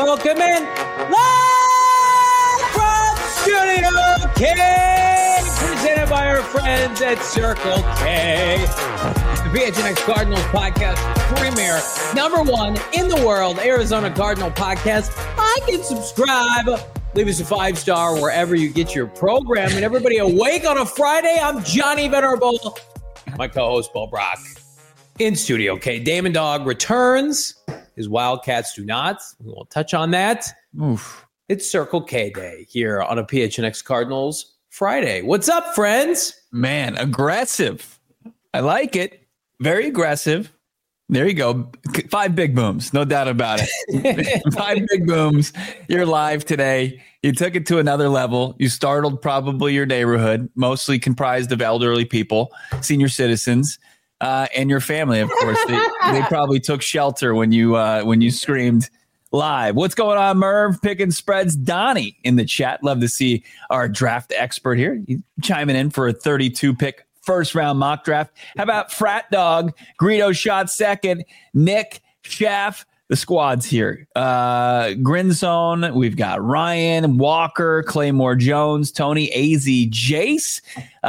Welcome in live from Studio K, presented by our friends at Circle K. The PHNX Cardinals podcast premier, #1 in the world, Arizona Cardinal podcast. Like and subscribe. Leave us a 5-star wherever you get your program. And everybody awake on a Friday. I'm Johnny Venerable. My co-host, Bo Brock, in Studio K. Damon Dog returns. His Wildcats do not. We won't touch on that. Oof. It's Circle K Day here on a PHNX Cardinals Friday. What's up, friends? Man, aggressive. I like it. Very aggressive. There you go. 5 big booms. No doubt about it. 5 big booms. You're live today. You took it to another level. You startled probably your neighborhood, mostly comprised of elderly people, senior citizens, and your family, of course. They probably took shelter when you screamed live. What's going on, Merv? Picking spreads. Donnie in the chat. Love to see our draft expert here. He's chiming in for a 32-pick first-round mock draft. How about Frat Dog? Greedo shot second. Nick, Schaff, the squad's here. Grinzone, we've got Ryan, Walker, Claymore Jones, Tony, AZ, Jace.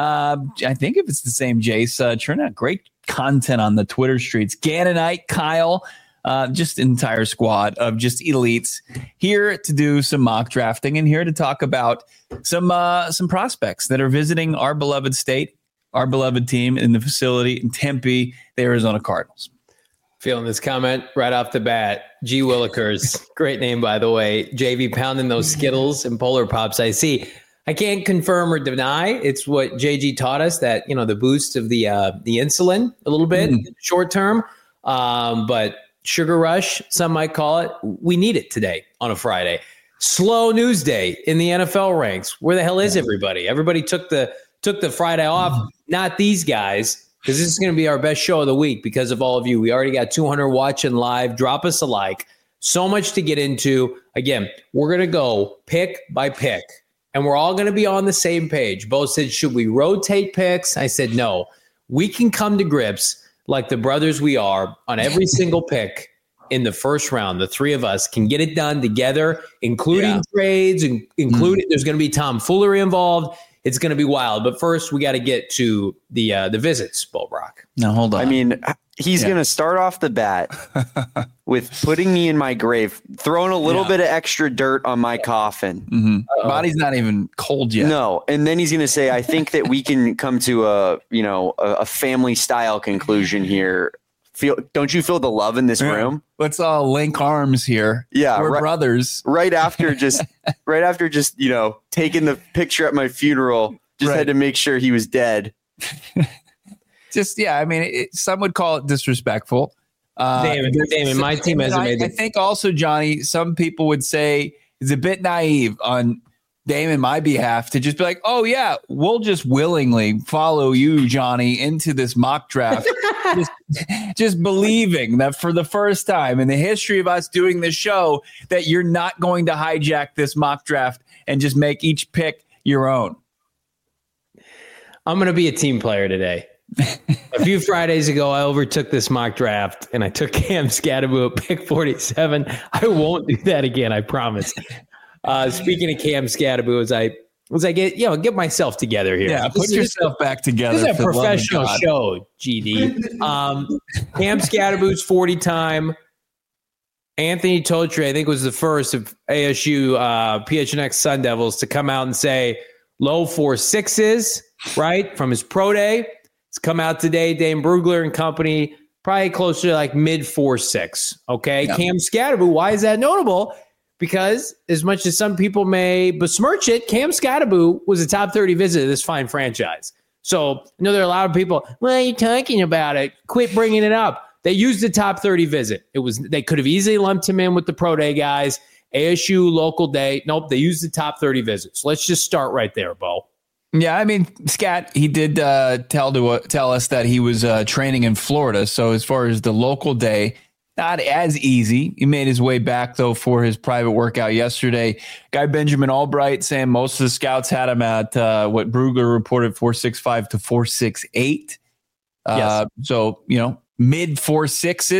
I think if it's the same Jace, churn out great content on the Twitter streets. Gannonite, Kyle, just an entire squad of just elites here to do some mock drafting and here to talk about some prospects that are visiting our beloved state, our beloved team in the facility in Tempe, the Arizona Cardinals. Feeling this comment right off the bat. G. Willikers, great name, by the way. JV pounding those Skittles and Polar Pops. I see. I can't confirm or deny. It's what JG taught us, that, you know, the boost of the insulin a little bit short term. But sugar rush, some might call it. We need it today on a Friday. Slow news day in the NFL ranks. Where the hell is everybody? Everybody took the Friday off. Not these guys, because this is going to be our best show of the week because of all of you. We already got 200 watching live. Drop us a like. So much to get into. Again, we're going to go pick by pick, and we're all going to be on the same page. Bo said, should we rotate picks? I said, no. We can come to grips like the brothers we are on every single pick in the first round. The three of us can get it done together, including trades, and including there's going to be tomfoolery involved. It's going to be wild. But first, we got to get to the visits, Bo Brock. Now, hold on. I mean, he's going to start off the bat with putting me in my grave, throwing a little bit of extra dirt on my coffin. Mm-hmm. Body's not even cold yet. No. And then he's going to say, I think that we can come to a family style conclusion here. Don't you feel the love in this room? Let's all link arms here. Yeah, we're brothers. Right after just taking the picture at my funeral, had to make sure he was dead. I mean, some would call it disrespectful. Damon, my team hasn't made it. I think also, Johnny, some people would say it's a bit naive on Damon, my behalf, to just be like, oh yeah, we'll just willingly follow you, Johnny, into this mock draft. just believing that for the first time in the history of us doing this show, that you're not going to hijack this mock draft and just make each pick your own. I'm going to be a team player today. A few Fridays ago, I overtook this mock draft and I took Cam Scatterbo at pick 47. I won't do that again. I promise. Speaking of Cam Scatterbo, as I get myself together here. Yeah, put yourself back together. This is a professional show, GD. Cam Scatterbo's 40 time. Anthony Totri, I think, was the first of ASU PHNX Sun Devils to come out and say low 4.6s, right, from his pro day. It's come out today. Dane Brugler and company, probably closer to like mid 4.6. Okay, yeah. Cam Scatterbo, why is that notable? Because as much as some people may besmirch it, Cam Scatterbo was a top 30 visit of this fine franchise. So I know there are a lot of people, what are you talking about it? Quit bringing it up. They used the top 30 visit. They could have easily lumped him in with the pro day guys, ASU local day. Nope, they used the top 30 visits. Let's just start right there, Bo. Yeah, I mean, Scat, he did tell us that he was training in Florida. So as far as the local day, not as easy. He made his way back, though, for his private workout yesterday. Guy Benjamin Albright saying most of the scouts had him at what Brugler reported, 4.65 to 4.68. Yes. So, mid 4.6s.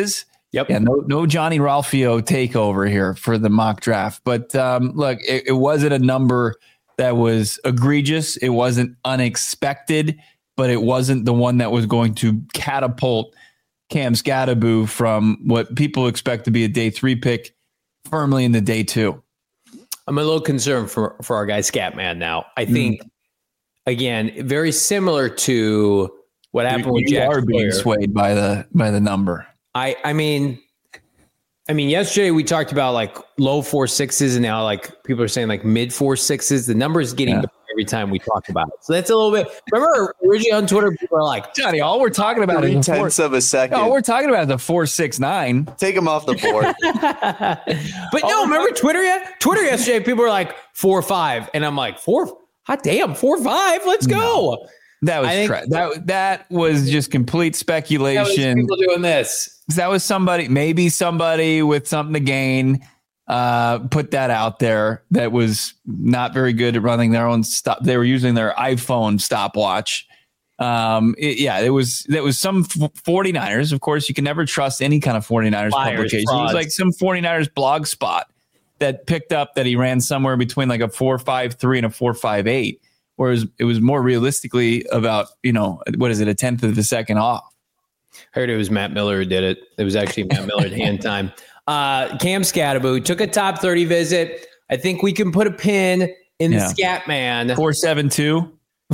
Yep. Yeah, no Johnny Ralphio takeover here for the mock draft. But look, it wasn't a number that was egregious. It wasn't unexpected, but it wasn't the one that was going to catapult Cam Skattebo from what people expect to be a day 3 pick firmly into day 2. I'm a little concerned for our guy Scatman now. I think, again, very similar to what happened with Jack. You are being swayed by the number. I mean, yesterday we talked about like low 4.6s, and now like people are saying like mid 4.6s. The number is getting better every time we talk about it. So that's a little bit. Remember originally on Twitter, people are like, Johnny, all we're talking about is 3/10 of a second. all we're talking about is the 4.69. Take him off the board. But no, remember Twitter yesterday, people were like 4.5, and I'm like 4. Hot damn, 4.5. Let's go. That was that was just complete speculation. People doing this. That was maybe somebody with something to gain, put that out there that was not very good at running their own stop. They were using their iPhone stopwatch. It was some 49ers. Of course, you can never trust any kind of 49ers publication. It was like some 49ers blog spot that picked up that he ran somewhere between like a 4.53 and a 4.58. Whereas it was more realistically about, what is it, a tenth of a second off. I heard it was Matt Miller who did it. It was actually Matt Miller at hand time. Cam Skattebo took a top 30 visit. I think we can put a pin in the Scat Man. 4.72.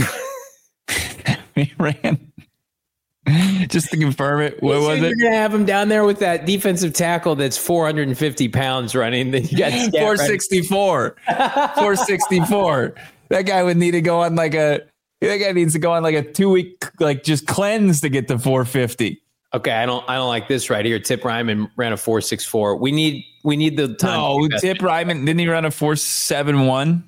He ran. Just to confirm it. What was it? You're going to have him down there with that defensive tackle that's 450 pounds running. Then you got 464. 464. That guy would need to go on like a 2-week just cleanse to get to 450. Okay, I don't like this right here. Tip Ryman ran a 4.64. We need the time. No, Tip Ryman, didn't he run a 4.71?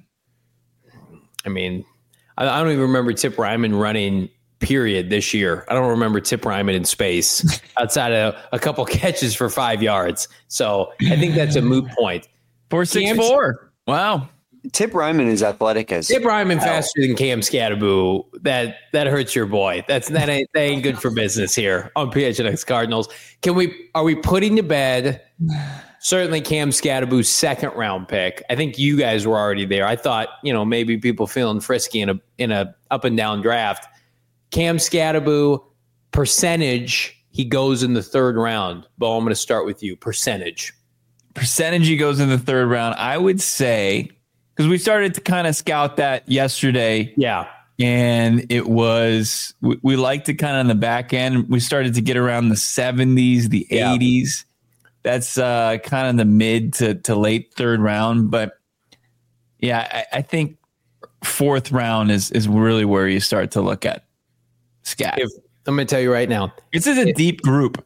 I mean, I don't even remember Tip Ryman running period this year. I don't remember Tip Ryman in space outside of a couple catches for 5 yards. So I think that's a moot point. 4.64. Wow. Tip Ryman is athletic as Tip Ryman faster than Cam Skattebo. That hurts your boy. That ain't good for business here on PHNX Cardinals. Are we putting to bed certainly Cam Skattebo's second round pick? I think you guys were already there. I thought, maybe people feeling frisky in a up and down draft. Cam Skattebo percentage, he goes in the third round. Bo, I'm going to start with you. Percentage he goes in the third round. I would say, because we started to kind of scout that yesterday. Yeah. And it was, we liked it kind of on the back end. We started to get around the 70s, the 80s. That's kind of the mid to late third round. But yeah, I think fourth round is really where you start to look at Scat. I'm going to tell you right now. This is a deep group.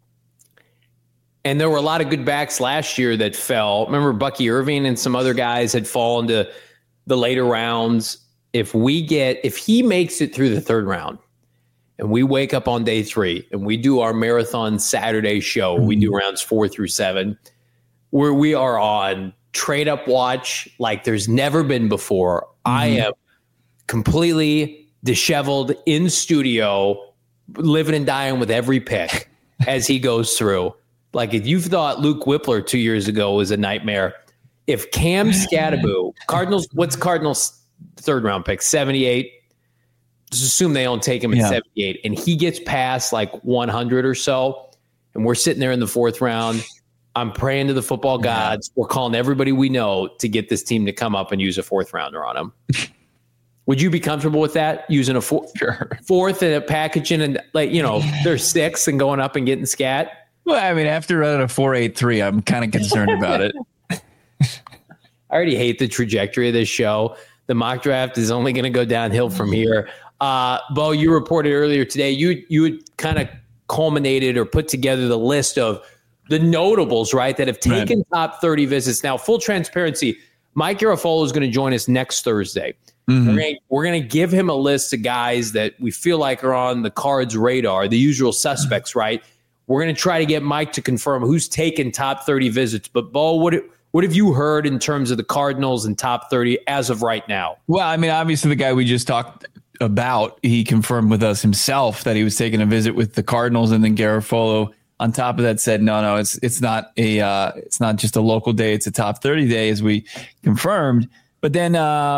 And there were a lot of good backs last year that fell. Remember Bucky Irving and some other guys had fallen to the later rounds. If he makes it through the third round and we wake up on day 3 and we do our marathon Saturday show, we do rounds 4 through 7, where we are on trade up watch like there's never been before. I am completely disheveled in studio, living and dying with every pick as he goes through. Like if you thought Luke Whippler 2 years ago was a nightmare, if Cam Skattebo, what's Cardinals' third round pick? 78. Just assume they don't take him at 78, and he gets past like 100 or so, and we're sitting there in the fourth round. I'm praying to the football gods. We're calling everybody we know to get this team to come up and use a fourth rounder on him. Would you be comfortable with that? Using a fourth and a packaging and they're 6 and going up and getting Scat? Well, I mean, after running a 4.83, I'm kind of concerned about it. I already hate the trajectory of this show. The mock draft is only going to go downhill from here. Bo, you reported earlier today, you had kind of culminated or put together the list of the notables, right, that have taken top 30 visits. Now, full transparency, Mike Garafolo is going to join us next Thursday. We're going to give him a list of guys that we feel like are on the Cards radar, the usual suspects, right? We're going to try to get Mike to confirm who's taken top 30 visits. But, Bo, what have you heard in terms of the Cardinals and top 30 as of right now? Well, I mean, obviously the guy we just talked about, he confirmed with us himself that he was taking a visit with the Cardinals, and then Garafolo on top of that said, no, it's not just a local day. It's a top 30 day, as we confirmed. But then,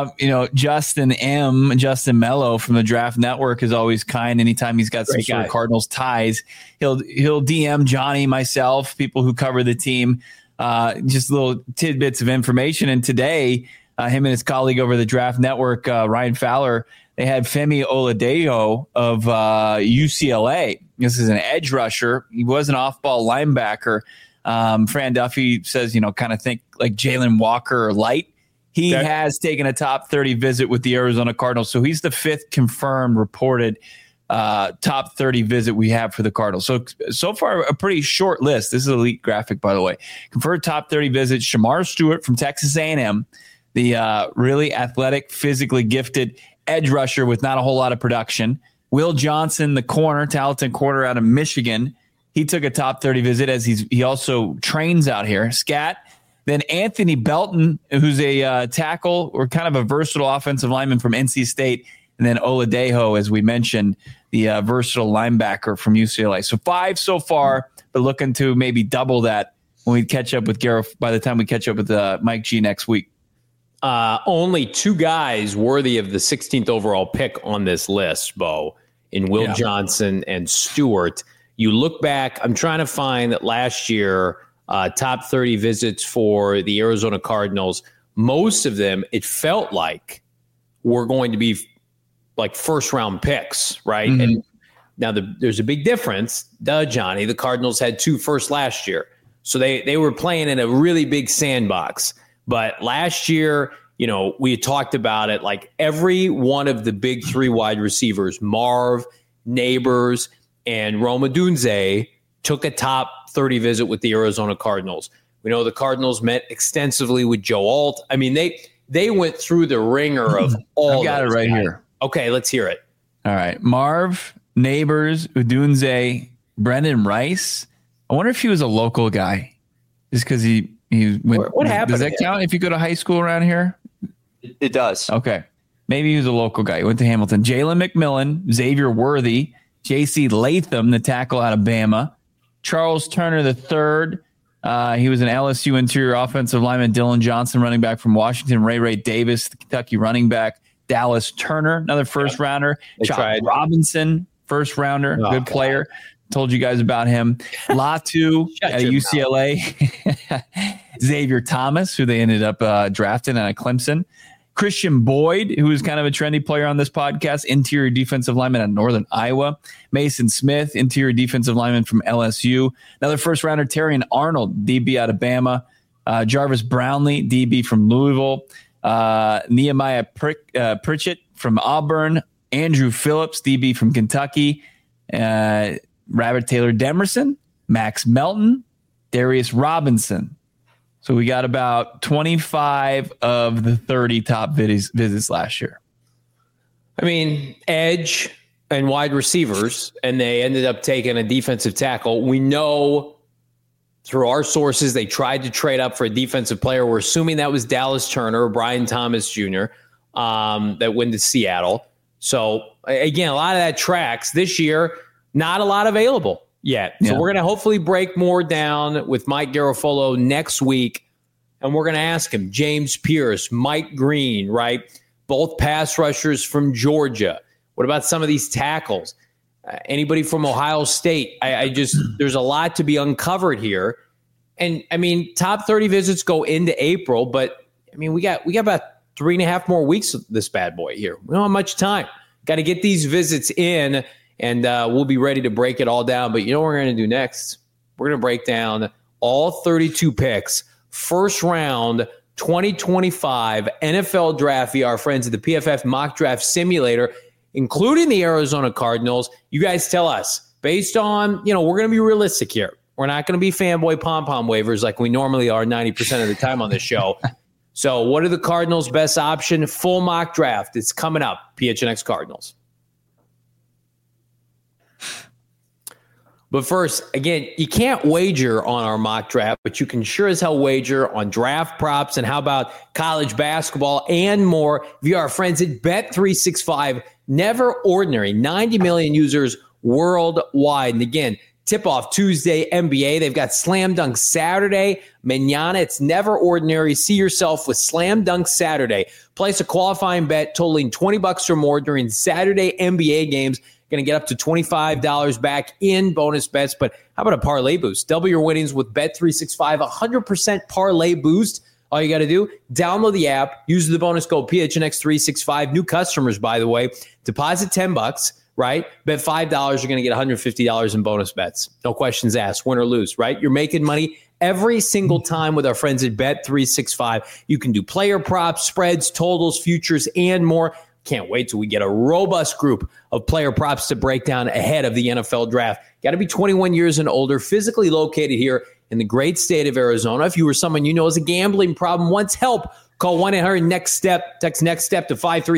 Justin Mello from the Draft Network is always kind. Anytime he's got some sort of Cardinals ties, he'll DM Johnny, myself, people who cover the team, just little tidbits of information. And today, him and his colleague over the Draft Network, Ryan Fowler, they had Femi Oladejo of UCLA. This is an edge rusher. He was an off-ball linebacker. Fran Duffy says, kind of think like Jalen Walker light. He has taken a top 30 visit with the Arizona Cardinals. So he's the 5th confirmed reported top 30 visit we have for the Cardinals. So far, a pretty short list. This is Elite Graphic, by the way. Confirmed top 30 visits, Shamar Stewart from Texas A&M, the really athletic, physically gifted edge rusher with not a whole lot of production. Will Johnson, the talented corner out of Michigan. He took a top 30 visit as he also trains out here. Scat. Then Anthony Belton, who's a tackle or kind of a versatile offensive lineman from NC State. And then Oladejo, as we mentioned, the versatile linebacker from UCLA. So 5 so far, but looking to maybe double that when we catch up with Gareth by the time we catch up with Mike G next week. Only 2 guys worthy of the 16th overall pick on this list, Bo, in Will Johnson and Stewart. You look back, I'm trying to find that last year, top 30 visits for the Arizona Cardinals. Most of them, it felt like, were going to be like first-round picks, right? Mm-hmm. And now there's a big difference. Johnny, the Cardinals had 2 firsts last year. So they were playing in a really big sandbox. But last year, we had talked about it, like every one of the big 3 wide receivers, Marv, Neighbors, and Rome Odunze, took a top 30 visit with the Arizona Cardinals. We know the Cardinals met extensively with Joe Alt. I mean, they went through the ringer of all. I've got it right here. Okay, let's hear it. All right. Marv, Neighbors, Odunze, Brendan Rice. I wonder if he was a local guy just because he went. What happened? Does that count if you go to high school around here? It does. Okay. Maybe he was a local guy. He went to Hamilton. Jalen McMillan, Xavier Worthy, J.C. Latham, the tackle out of Bama, Charles Turner III. He was an LSU interior offensive lineman. Dylan Johnson, running back from Washington. Ray Davis, the Kentucky running back. Dallas Turner, another first rounder. Chad Robinson, first rounder, good player. Told you guys about him. Latu at UCLA. Xavier Thomas, who they ended up drafting out of Clemson. Christian Boyd, who is kind of a trendy player on this podcast, interior defensive lineman at Northern Iowa. Mason Smith, interior defensive lineman from LSU. Another first rounder, Terrion Arnold, DB out of Bama. Jarvis Brownlee, DB from Louisville. Nehemiah Pritchett from Auburn. Andrew Phillips, DB from Kentucky. Robert Taylor Demerson, Max Melton, Darius Robinson. So we got about 25 of the 30 top visits last year. I mean, edge and wide receivers, and they ended up taking a defensive tackle. We know through our sources they tried to trade up for a defensive player. We're assuming that was Dallas Turner or Brian Thomas Jr. That went to Seattle. So, again, a lot of that tracks. This year, not a lot available yet. So we're going to hopefully break more down with Mike Garofolo next week. And we're going to ask him, James Pierce, Mike Green, right? Both pass rushers from Georgia. What about some of these tackles? Anybody from Ohio State? There's a lot to be uncovered here. And I mean, top 30 visits go into April, but I mean, we got about 3.5 more weeks of this bad boy here. We don't have much time. Got to get these visits in. And we'll be ready to break it all down. But you know what we're going to do next? We're going to break down all 32 picks, first round 2025 NFL Draft via our friends at the PFF Mock Draft Simulator, including the Arizona Cardinals. You guys tell us, based on, we're going to be realistic here. We're not going to be fanboy pom-pom wavers like we normally are 90% of the time on this show. So what are the Cardinals' best option? Full mock draft. It's coming up. PHNX Cardinals. But first, again, you can't wager on our mock draft, but you can sure as hell wager on draft props and how about college basketball and more via our friends at Bet365. Never ordinary, 90 million users worldwide. And again, Tip-off Tuesday, NBA. They've got Slam Dunk Saturday. Mañana, it's never ordinary. See yourself with Slam Dunk Saturday. Place a qualifying bet totaling $20 or more during Saturday NBA games. Going to get up to $25 back in bonus bets. But how about a parlay boost? Double your winnings with Bet365, 100% parlay boost. All you got to do, download the app, use the bonus code PHNX365. New customers, by the way, deposit $10, right? Bet $5, you're going to get $150 in bonus bets. No questions asked, win or lose, right? You're making money every single time with our friends at Bet365. You can do player props, spreads, totals, futures, and more. Can't wait till we get a robust group of player props to break down ahead of the NFL draft. Got to be 21 years and older, physically located here in the great state of Arizona. If you or someone you know has a gambling problem, wants help, call 1-800-NEXT-STEP. Text NEXT STEP to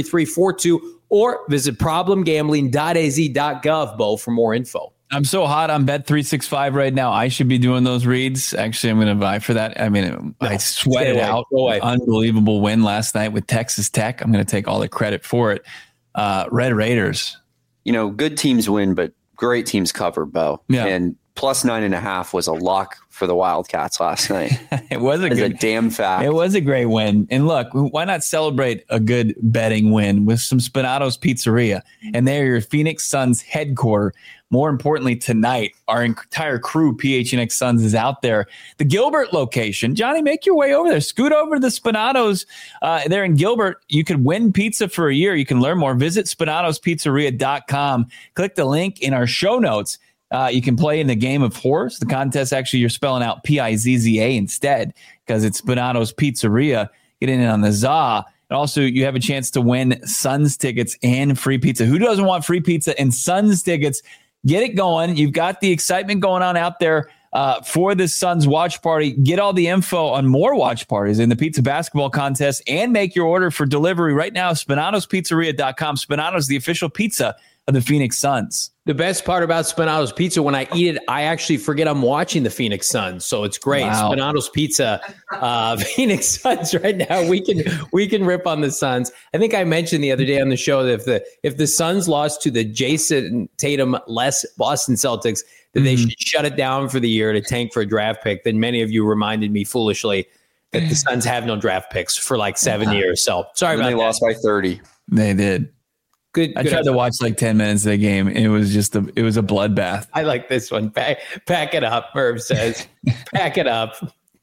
53342 or visit problemgambling.az.gov, Bo, for more info. I'm so hot on Bet365 right now. I should be doing those reads. Actually, I'm going to vie for that. I mean, I sweated out. Unbelievable win last night with Texas Tech. I'm going to take all the credit for it. Red Raiders. You know, good teams win, but great teams cover, Bo. Yeah. And plus 9.5 was a lock for the Wildcats last night. It was a damn fact. It was a great win. And look, why not celebrate a good betting win with some Spinato's Pizzeria? And they're your Phoenix Suns headquarters. More importantly, tonight, our entire crew, PHNX Suns, is out there. The Gilbert location. Johnny, make your way over there. Scoot over to the Spinato's. There in Gilbert. You could win pizza for a year. You can learn more. Visit SpinatosPizzeria.com. Click the link in our show notes. You can play in the game of horse. The contest, actually, you're spelling out Pizza instead because it's Spinato's Pizzeria. Get in on the za. And also, you have a chance to win Suns tickets and free pizza. Who doesn't want free pizza and Suns tickets? Get it going. You've got the excitement going on out there for the Suns watch party. Get all the info on more watch parties in the pizza basketball contest and make your order for delivery right now. SpinatosPizzeria.com. Spinato's the official pizza of the Phoenix Suns. The best part about Spinato's Pizza, when I eat it, I actually forget I'm watching the Phoenix Suns. So it's great. Wow. Spinato's Pizza, Phoenix Suns right now. We can rip on the Suns. I think I mentioned the other day on the show that if the Suns lost to the Jason Tatum-less Boston Celtics, that they should shut it down for the year to tank for a draft pick. Then many of you reminded me foolishly that the Suns have no draft picks for like 7 years. So sorry about that. They lost by 30. They did. Good. I tried to watch like 10 minutes of the game. It was just a bloodbath. I like this one. Pack it up, Merv says. Pack it up.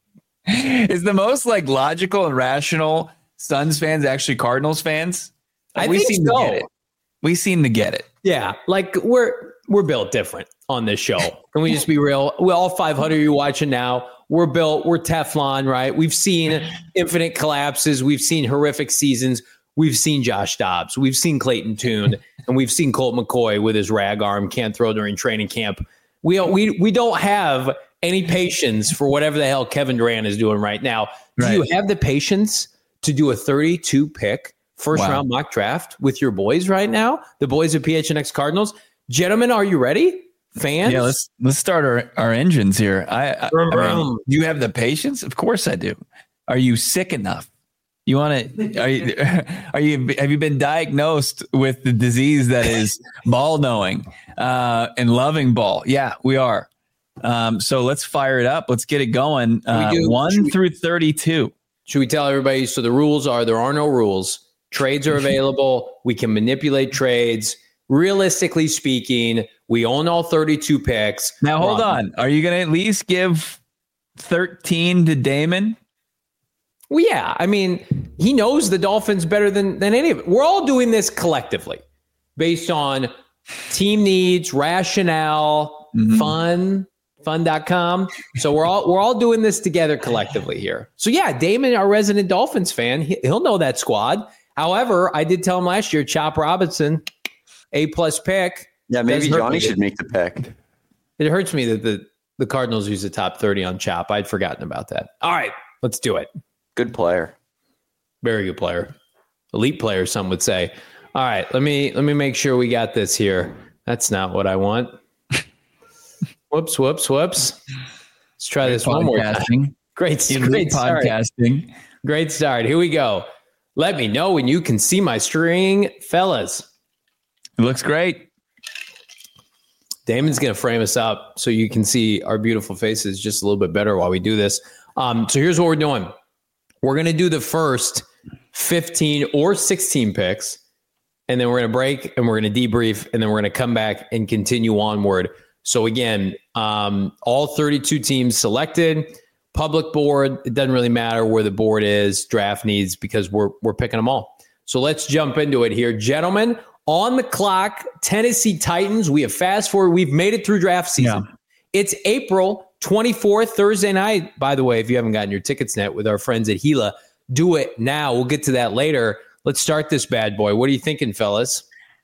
Is the most like logical and rational Suns fans actually Cardinals fans? I think so. To get it. We seem to get it. Yeah, like we're built different on this show. Can we just be real? We all 500 you watching now. We're Teflon, right? We've seen infinite collapses. We've seen horrific seasons. We've seen Josh Dobbs. We've seen Clayton Tune, and we've seen Colt McCoy with his rag arm, can't throw during training camp. We don't have any patience for whatever the hell Kevin Durant is doing right now. Do you have the patience to do a 32 pick first round mock draft with your boys right now? The boys of PHNX Cardinals. Gentlemen, are you ready? Fans? Yeah, let's start our engines here. I mean, do you have the patience? Of course I do. Are you sick enough? You want to? Have you been diagnosed with the disease that is ball knowing and loving ball? Yeah, we are. So let's fire it up. Let's get it going. 1 through 32. Should we tell everybody? So the rules are: there are no rules. Trades are available. We can manipulate trades. Realistically speaking, we own all 32 picks. Now hold on. Are you going to at least give 13 to Damon? Well, yeah. I mean, he knows the Dolphins better than any of it. We're all doing this collectively based on team needs, rationale, fun.com. So we're all doing this together collectively here. So yeah, Damon, our resident Dolphins fan, he'll know that squad. However, I did tell him last year, Chop Robinson, A+ pick. Yeah, maybe Johnny should make the pick. It hurts me that the Cardinals use the top 30 on Chop. I'd forgotten about that. All right, let's do it. Good player. Very good player. Elite player, some would say. All right, let me make sure we got this here. That's not what I want. Whoops. Let's try this one more time. Great podcasting. Great start. Here we go. Let me know when you can see my string, fellas. It looks great. Damon's going to frame us up so you can see our beautiful faces just a little bit better while we do this. So here's what we're doing. We're going to do the first 15 or 16 picks, and then we're going to break and we're going to debrief, and then we're going to come back and continue onward. So again, all 32 teams selected, public board. It doesn't really matter where the board is, draft needs, because we're picking them all. So let's jump into it here. Gentlemen, on the clock, Tennessee Titans. We have fast forward. We've made it through draft season. Yeah. It's April 24th, Thursday night. By the way, if you haven't gotten your tickets yet with our friends at Gila, do it now. We'll get to that later. Let's start this bad boy. What are you thinking, fellas?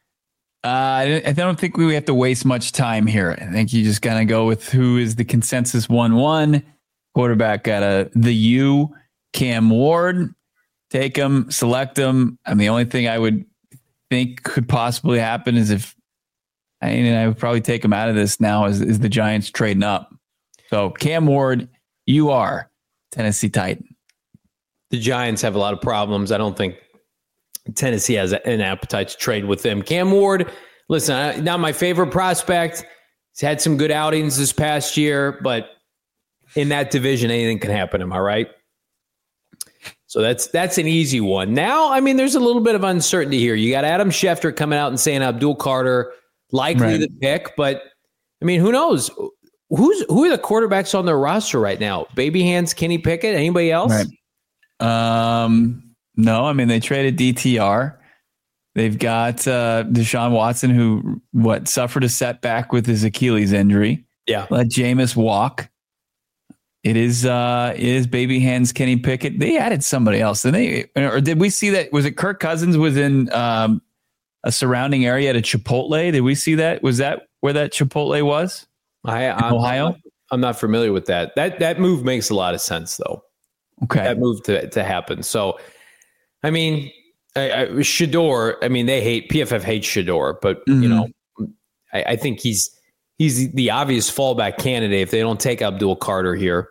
I don't think we have to waste much time here. I think you just got to go with who is the consensus 1-1. Quarterback got the U, Cam Ward. Take him, select him. I mean, the only thing I would think could possibly happen is if I would probably take him out of this now is the Giants trading up. So Cam Ward, you are Tennessee Titan. The Giants have a lot of problems. I don't think Tennessee has an appetite to trade with them. Cam Ward, listen, not my favorite prospect. He's had some good outings this past year, but in that division, anything can happen. Am I right? So that's an easy one. Now, I mean, there's a little bit of uncertainty here. You got Adam Schefter coming out and saying Abdul Carter likely the pick, but I mean, who knows? Who are the quarterbacks on their roster right now? Baby Hands, Kenny Pickett, anybody else? Right. No, I mean, they traded DTR. They've got Deshaun Watson, who suffered a setback with his Achilles injury. Yeah. Let Jameis walk. It is Baby Hands, Kenny Pickett. They added somebody else. Did we see that? Was it Kirk Cousins was in a surrounding area at a Chipotle? Did we see that? Was that where that Chipotle was? Ohio? I'm not familiar with that. That move makes a lot of sense, though. Okay. That move to happen. So, I mean, Shedeur, I mean, PFF hates Shedeur, but, you know, I think he's the obvious fallback candidate if they don't take Abdul Carter here.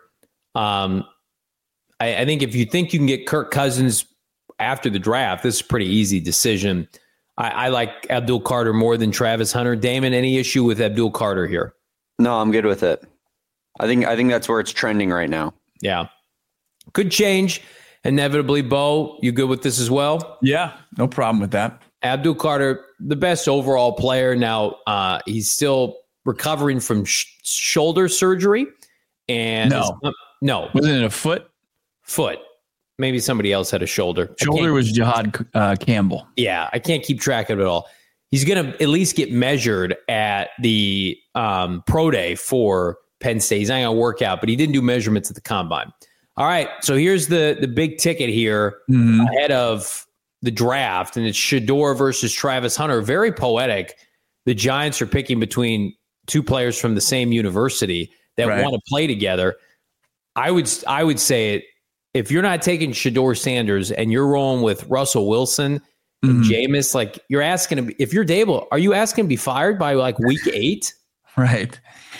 I think if you think you can get Kirk Cousins after the draft, this is a pretty easy decision. I like Abdul Carter more than Travis Hunter. Damon, any issue with Abdul Carter here? No, I'm good with it. I think that's where it's trending right now. Yeah. Could change inevitably. Bo, you good with this as well? Yeah, no problem with that. Abdul Carter, the best overall player. Now, he's still recovering from shoulder surgery. And no. Wasn't it a foot? Foot. Maybe somebody else had a shoulder. Shoulder was Jihad Campbell. Yeah, I can't keep track of it all. He's going to at least get measured at the pro day for Penn State. He's not going to work out, but he didn't do measurements at the combine. All right, so here's the big ticket here ahead of the draft, and it's Shedeur versus Travis Hunter. Very poetic. The Giants are picking between two players from the same university that want to play together. I would say it. If you're not taking Shedeur Sanders and you're rolling with Russell Wilson and Jameis, like you're asking him, if you're Dable, are you asking to be fired by like week 8? Right.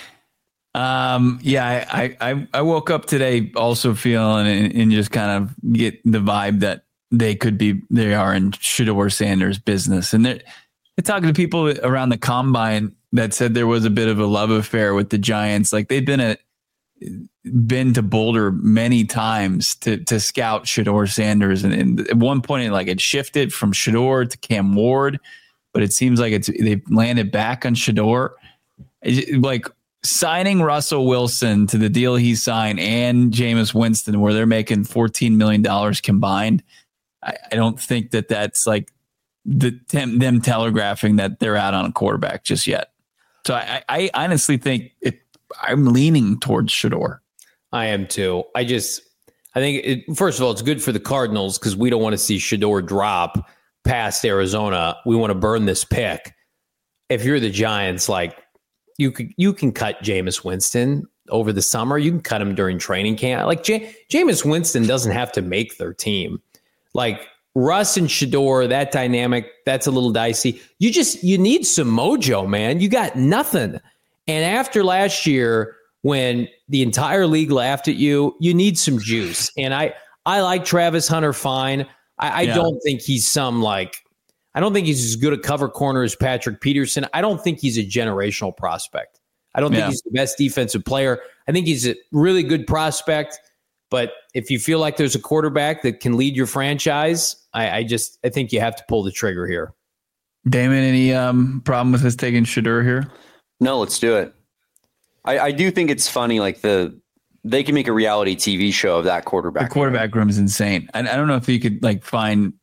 Yeah, I woke up today also feeling and just kind of get the vibe that they are in Shedeur Sanders business. And they're talking to people around the combine that said there was a bit of a love affair with the Giants. Like they've been to Boulder many times to scout Shedeur Sanders. And at one point it shifted from Shedeur to Cam Ward, but it seems like they've landed back on Shedeur. Like signing Russell Wilson to the deal he signed and Jameis Winston, where they're making $14 million combined. I don't think that's like them telegraphing that they're out on a quarterback just yet. So I honestly think I'm leaning towards Shedeur. I am too. I think first of all, it's good for the Cardinals because we don't want to see Shedeur drop past Arizona. We want to burn this pick. If you're the Giants, like you can cut Jameis Winston over the summer. You can cut him during training camp. Like Jameis Winston doesn't have to make their team. Like Russ and Shedeur, that dynamic, that's a little dicey. You need some mojo, man. You got nothing. And after last year, when the entire league laughed at you, you need some juice. And I like Travis Hunter fine. I don't think he's some like I don't think he's as good a cover corner as Patrick Peterson. I don't think he's a generational prospect. I don't think he's the best defensive player. I think he's a really good prospect. But if you feel like there's a quarterback that can lead your franchise, I think you have to pull the trigger here. Damon, any problem with us taking Shedeur here? No, let's do it. I do think it's funny, like they can make a reality TV show of that quarterback. The quarterback room is insane. I don't know if you could like find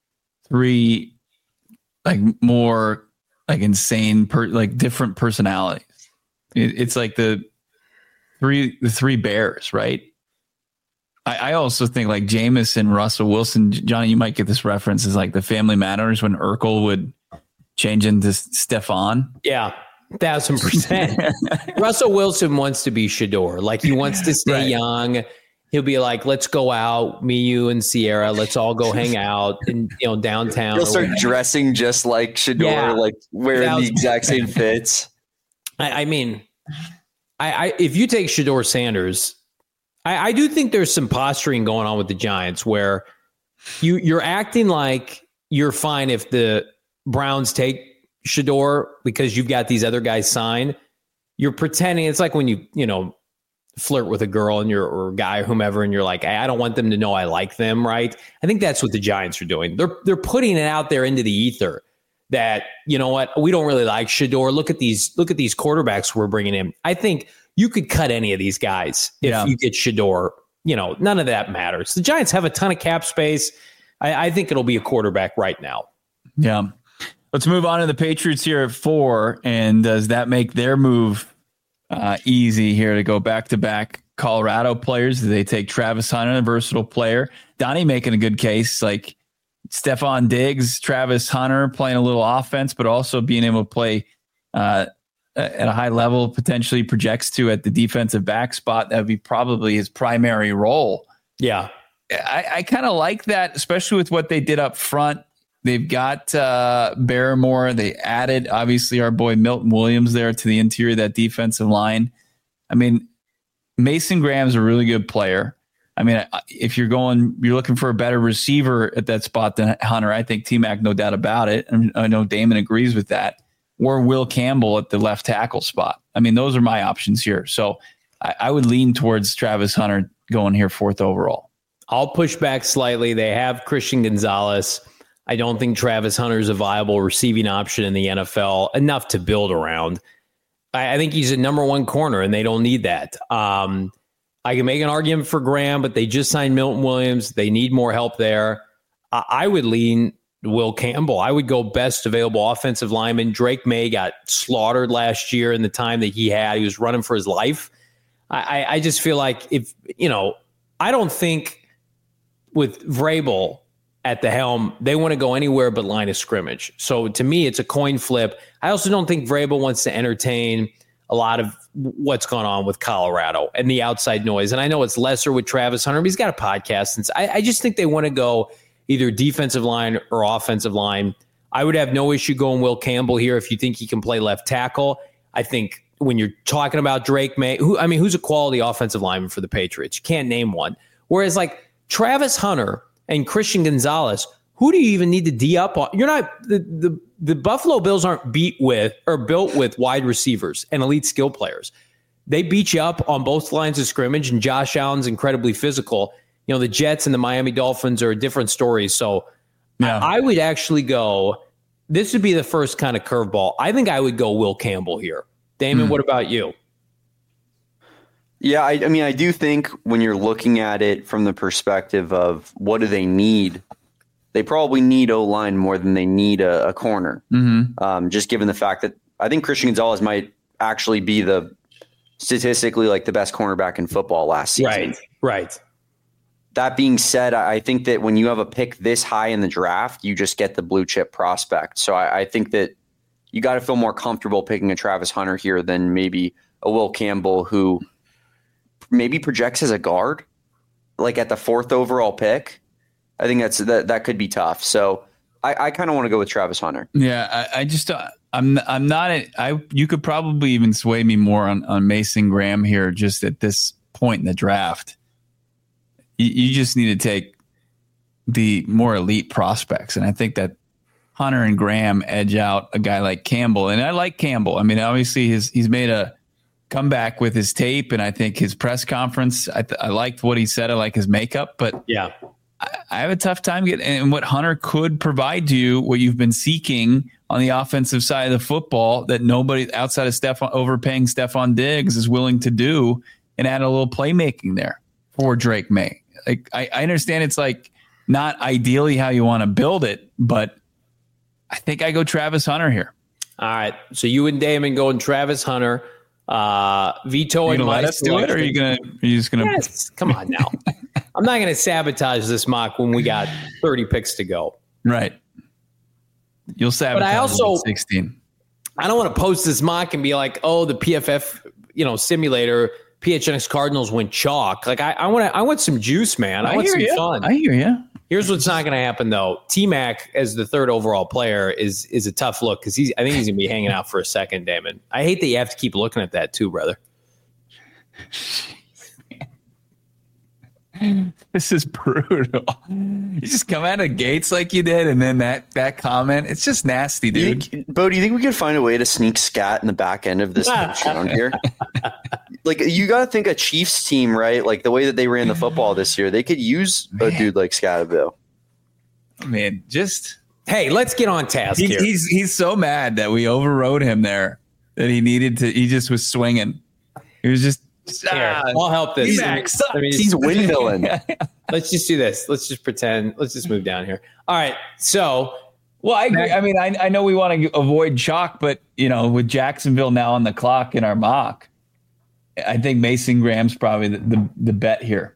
3 like more like insane different personalities. It's like the three bears, right? I also think like Jameis and Russell Wilson. Johnny, you might get this reference, is like the Family Matters when Urkel would change into Stephon. Yeah, 1,000%. Russell Wilson wants to be Shedeur. Like he wants to stay young. He'll be like, let's go out, me, you, and Sierra. Let's all go hang out in downtown. He'll start dressing just like Shedeur, like wearing the exact same fits. I mean, if you take Shedeur Sanders, I do think there's some posturing going on with the Giants where you're acting like you're fine if the Browns take Shedeur because you've got these other guys signed. You're pretending it's like when you flirt with a girl and or a guy or whomever, and you're like, I don't want them to know I like them, right? I think that's what the Giants are doing. They're putting it out there into the ether that, you know what, we don't really like Shedeur. Look at these quarterbacks we're bringing in. I think you could cut any of these guys if you get Shedeur. None of that matters. The Giants have a ton of cap space. I think it'll be a quarterback right now. Yeah. Let's move on to the Patriots here at 4. And does that make their move easy here to go back-to-back Colorado players? Do they take Travis Hunter, a versatile player? Donnie making a good case, like Stephon Diggs, Travis Hunter playing a little offense, but also being able to play at a high level, potentially projects to at the defensive back spot. That would be probably his primary role. Yeah. I kind of like that, especially with what they did up front. They've got Barrymore. They added, obviously, our boy Milton Williams there to the interior of that defensive line. I mean, Mason Graham's a really good player. I mean, if you're looking for a better receiver at that spot than Hunter, I think T-Mac, no doubt about it. And I know Damon agrees with that. Or Will Campbell at the left tackle spot. I mean, those are my options here. So I would lean towards Travis Hunter going here 4th overall. I'll push back slightly. They have Christian Gonzalez. I don't think Travis Hunter is a viable receiving option in the NFL, enough to build around. I think he's a number 1 corner, and they don't need that. I can make an argument for Graham, but they just signed Milton Williams. They need more help there. I would lean Will Campbell. I would go best available offensive lineman. Drake May got slaughtered last year in the time that he had. He was running for his life. I just feel like I don't think with Vrabel at the helm, they want to go anywhere but line of scrimmage. So to me, it's a coin flip. I also don't think Vrabel wants to entertain a lot of what's going on with Colorado and the outside noise. And I know it's lesser with Travis Hunter, but he's got a podcast. And I just think they want to go either defensive line or offensive line. I would have no issue going Will Campbell here if you think he can play left tackle. I think when you're talking about Drake May, who's a quality offensive lineman for the Patriots? You can't name one. Whereas like Travis Hunter and Christian Gonzalez, who do you even need to D up on? You're not the Buffalo Bills aren't built with wide receivers and elite skill players. They beat you up on both lines of scrimmage, and Josh Allen's incredibly physical. The Jets and the Miami Dolphins are a different story. So I would actually go, this would be the first kind of curveball. I think I would go Will Campbell here. Damon, what about you? Yeah, I mean, I do think when you're looking at it from the perspective of what do they need, they probably need O-line more than they need a corner. Mm-hmm. Just given the fact that I think Christian Gonzalez might actually be the statistically like the best cornerback in football last season. Right. That being said, I think that when you have a pick this high in the draft, you just get the blue chip prospect. So I think that you got to feel more comfortable picking a Travis Hunter here than maybe a Will Campbell who maybe projects as a guard, like at the 4th overall pick. I think that could be tough. So I kind of want to go with Travis Hunter. Yeah, I just I'm not. You could probably even sway me more on Mason Graham here, just at this point in the draft. You just need to take the more elite prospects, and I think that Hunter and Graham edge out a guy like Campbell. And I like Campbell. I mean, obviously he's made a comeback with his tape, and I think his press conference, I liked what he said. I like his makeup, but yeah, I have a tough time getting, and what Hunter could provide to you, what you've been seeking on the offensive side of the football that nobody outside of overpaying Stephon Diggs is willing to do, and add a little playmaking there for Drake May. Like I understand it's like not ideally how you want to build it, but I think I go Travis Hunter here. All right. So you and Damon going Travis Hunter. Vito and let us do it, or are you just gonna? Yes. Come on now. I'm not gonna sabotage this mock when we got 30 picks to go. Right. You'll sabotage. But I also 16. I don't want to post this mock and be like, oh, the PFF simulator PHNX Cardinals went chalk. Like I want some juice, man. I want some fun. I hear you. Here's what's not going to happen though. T-Mac as the third overall player is a tough look because I think he's going to be hanging out for a second, Damon. I hate that you have to keep looking at that too, brother. This is brutal. You just come out of gates like you did, and then that comment, it's just nasty, dude. Bo, do you think we could find a way to sneak scat in the back end of this round here? Like, you got to think a Chiefs team, right? Like the way that they ran the football this year, they could use a dude like Scatterville. Man, hey, let's get on task here. He's so mad that we overrode him there that he just was swinging. He was just. I'll help this. He's windmilling. Let's just do this. Let's just pretend. Let's just move down here. All right. So, well, I agree. I mean, I know we want to avoid chalk, but with Jacksonville now on the clock in our mock, I think Mason Graham's probably the bet here.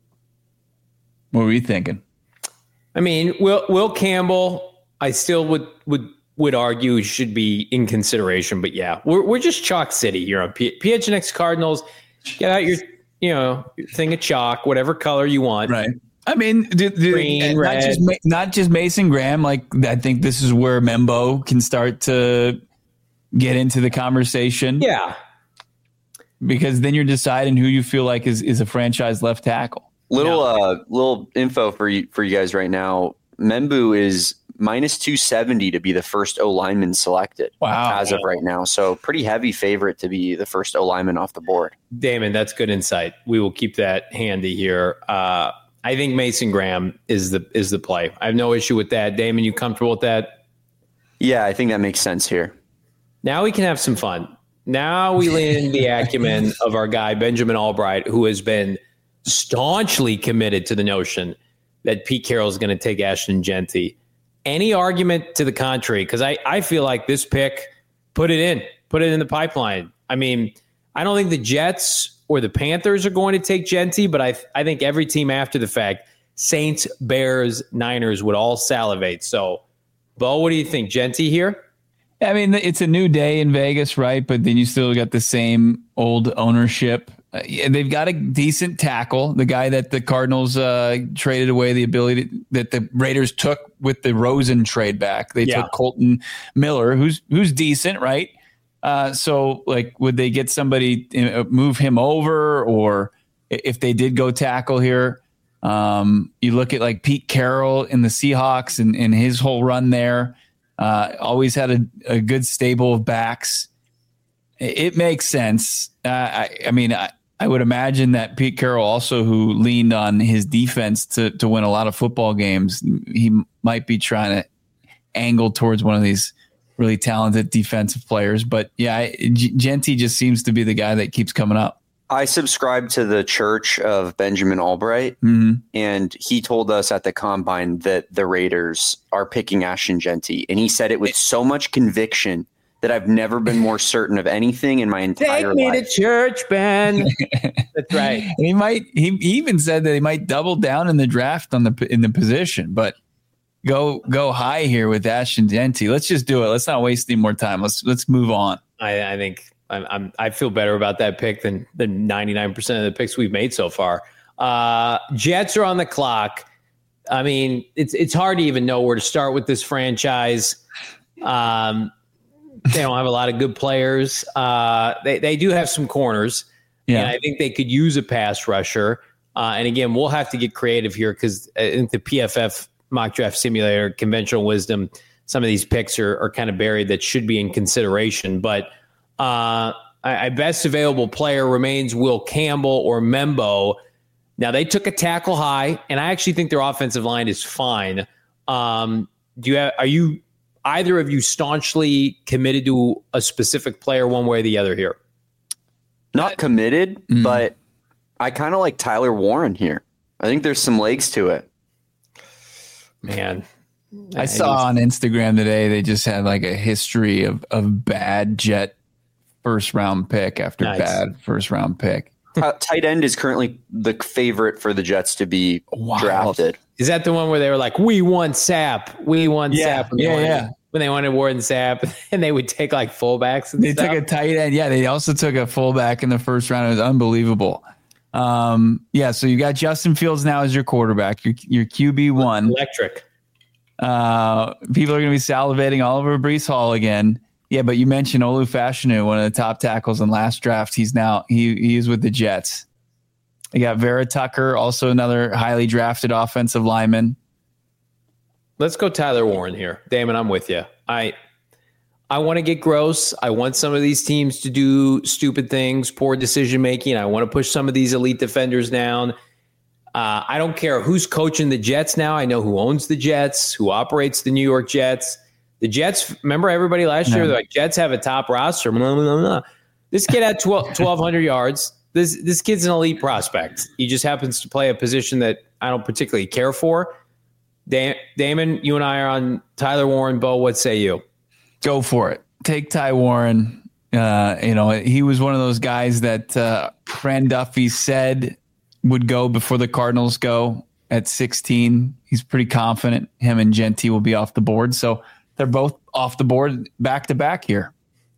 What were you thinking? I mean, Will Campbell, I still would argue should be in consideration, but yeah, we're just chalk city here on PHNX Cardinals. Get out your thing of chalk, whatever color you want. Right. I mean, green, red. Not just Mason Graham. Like, I think this is where Membo can start to get into the conversation. Yeah. Because then you're deciding who you feel like is a franchise left tackle. Little info for you guys right now. Membu is minus 270 to be the first O lineman selected. Wow. As of right now. So pretty heavy favorite to be the first O lineman off the board. Damon, that's good insight. We will keep that handy here. I think Mason Graham is the play. I have no issue with that. Damon, you comfortable with that? Yeah, I think that makes sense here. Now we can have some fun. Now we lean into the acumen of our guy, Benjamin Albright, who has been staunchly committed to the notion that Pete Carroll is going to take Ashton Jeanty. Any argument to the contrary? Because I feel like this pick, put it in the pipeline. I mean, I don't think the Jets or the Panthers are going to take Jeanty, but I think every team after the fact, Saints, Bears, Niners would all salivate. So, Bo, what do you think? Jeanty here? I mean, it's a new day in Vegas, right? But then you still got the same old ownership. They've got a decent tackle, the guy that the Cardinals traded away the ability that the Raiders took with the Rosen trade back. They took Colton Miller, who's decent, right? So, like, would they get somebody, move him over, or if they did go tackle here, you look at like Pete Carroll in the Seahawks and his whole run there, always had a good stable of backs. It makes sense. I would imagine that Pete Carroll also, who leaned on his defense to win a lot of football games, he might be trying to angle towards one of these really talented defensive players. But yeah, Jeanty just seems to be the guy that keeps coming up. I subscribe to the church of Benjamin Albright, and he told us at the Combine that the Raiders are picking Ashton Jeanty, and he said it with so much conviction that I've never been more certain of anything in my entire life. Take me to church, Ben. That's right. And he even said that he might double down in the draft in the position, but go high here with Ashton Jeanty. Let's just do it. Let's not waste any more time. Let's move on. I think I feel better about that pick than 99% of the picks we've made so far. Jets are on the clock. I mean, it's hard to even know where to start with this franchise. They don't have a lot of good players. They do have some corners. Yeah. And I think they could use a pass rusher. And again, we'll have to get creative here because I think the PFF mock draft simulator, conventional wisdom, some of these picks are kind of buried that should be in consideration. But I best available player remains Will Campbell or Membo. Now, they took a tackle high, and I actually think their offensive line is fine. Are you either of you staunchly committed to a specific player one way or the other here? Not committed, but I kind of like Tyler Warren here. I think there's some legs to it. Man. I saw on Instagram today they just had like a history of bad Jet first round pick after bad first round pick. Tight end is currently the favorite for the Jets to be drafted. Is that the one where they were like, we want Sapp, Sapp? When they wanted Warren Sapp, and they would take like fullbacks. And they took a tight end. Yeah, they also took a fullback in the first round. It was unbelievable. So you got Justin Fields now as your quarterback, your QB1. Electric. People are going to be salivating all over Breece Hall again. Yeah, but you mentioned Olu Fashanu, one of the top tackles in last draft. He's now he is with the Jets. You got Vera Tucker, also another highly drafted offensive lineman. Let's go Tyler Warren here. Damon, I'm with you. I want to get gross. I want some of these teams to do stupid things, poor decision making. I want to push some of these elite defenders down. I don't care who's coaching the Jets now. I know who owns the Jets, who operates the New York Jets. The Jets, remember everybody last year? They're like, Jets have a top roster. Blah, blah, blah, blah. This kid had 1,200 yards. This kid's an elite prospect. He just happens to play a position that I don't particularly care for. Damon, you and I are on Tyler Warren. Bo, what say you? Go for it. Take Ty Warren. He was one of those guys that Fran Duffy said would go before the Cardinals go at 16. He's pretty confident him and Genty will be off the board. So they're both off the board back to back here.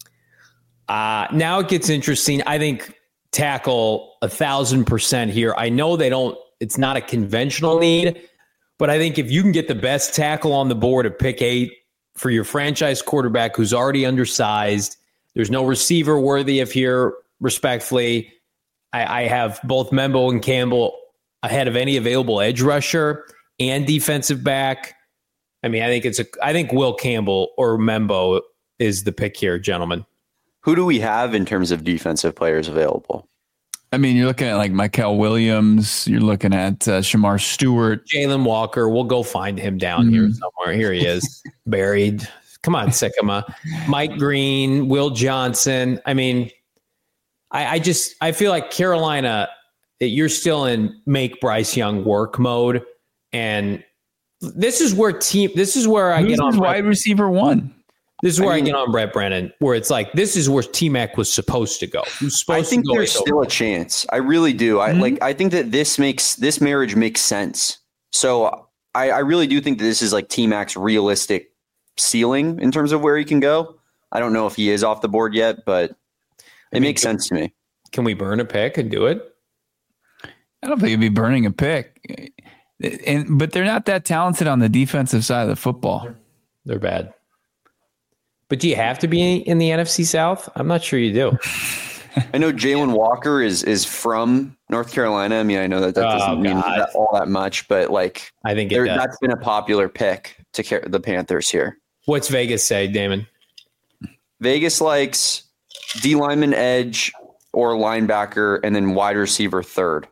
Now it gets interesting. I think tackle 1,000% here. I know it's not a conventional need, but I think if you can get the best tackle on the board at pick 8 for your franchise quarterback who's already undersized, there's no receiver worthy of here, respectfully. I have both Membo and Campbell ahead of any available edge rusher and defensive back. I mean, I think Will Campbell or Membo is the pick here, gentlemen. Who do we have in terms of defensive players available? I mean, you're looking at like Mykal Williams. You're looking at Shamar Stewart. Jalen Walker. We'll go find him down here somewhere. Here he is, buried. Come on, Sycamore. Mike Green, Will Johnson. I mean, I feel like Carolina, you're still in make Bryce Young work mode. And this is where I get on wide receiver 1. This is where I get on Brett Brennan, where it's like, this is where T-Mac was supposed to go. I think there's still a chance. I really do. I think that this marriage makes sense. So I really do think that this is like T-Mac's realistic ceiling in terms of where he can go. I don't know if he is off the board yet, but it makes sense to me. Can we burn a pick and do it? I don't think it'd be burning a pick. But they're not that talented on the defensive side of the football. They're bad. But do you have to be in the NFC South? I'm not sure you do. I know Jalen Walker is from North Carolina. I mean, I know that doesn't mean all that much, but like I think that's been a popular pick to the Panthers here. What's Vegas say, Damon? Vegas likes D lineman, edge, or linebacker, and then wide receiver 3rd.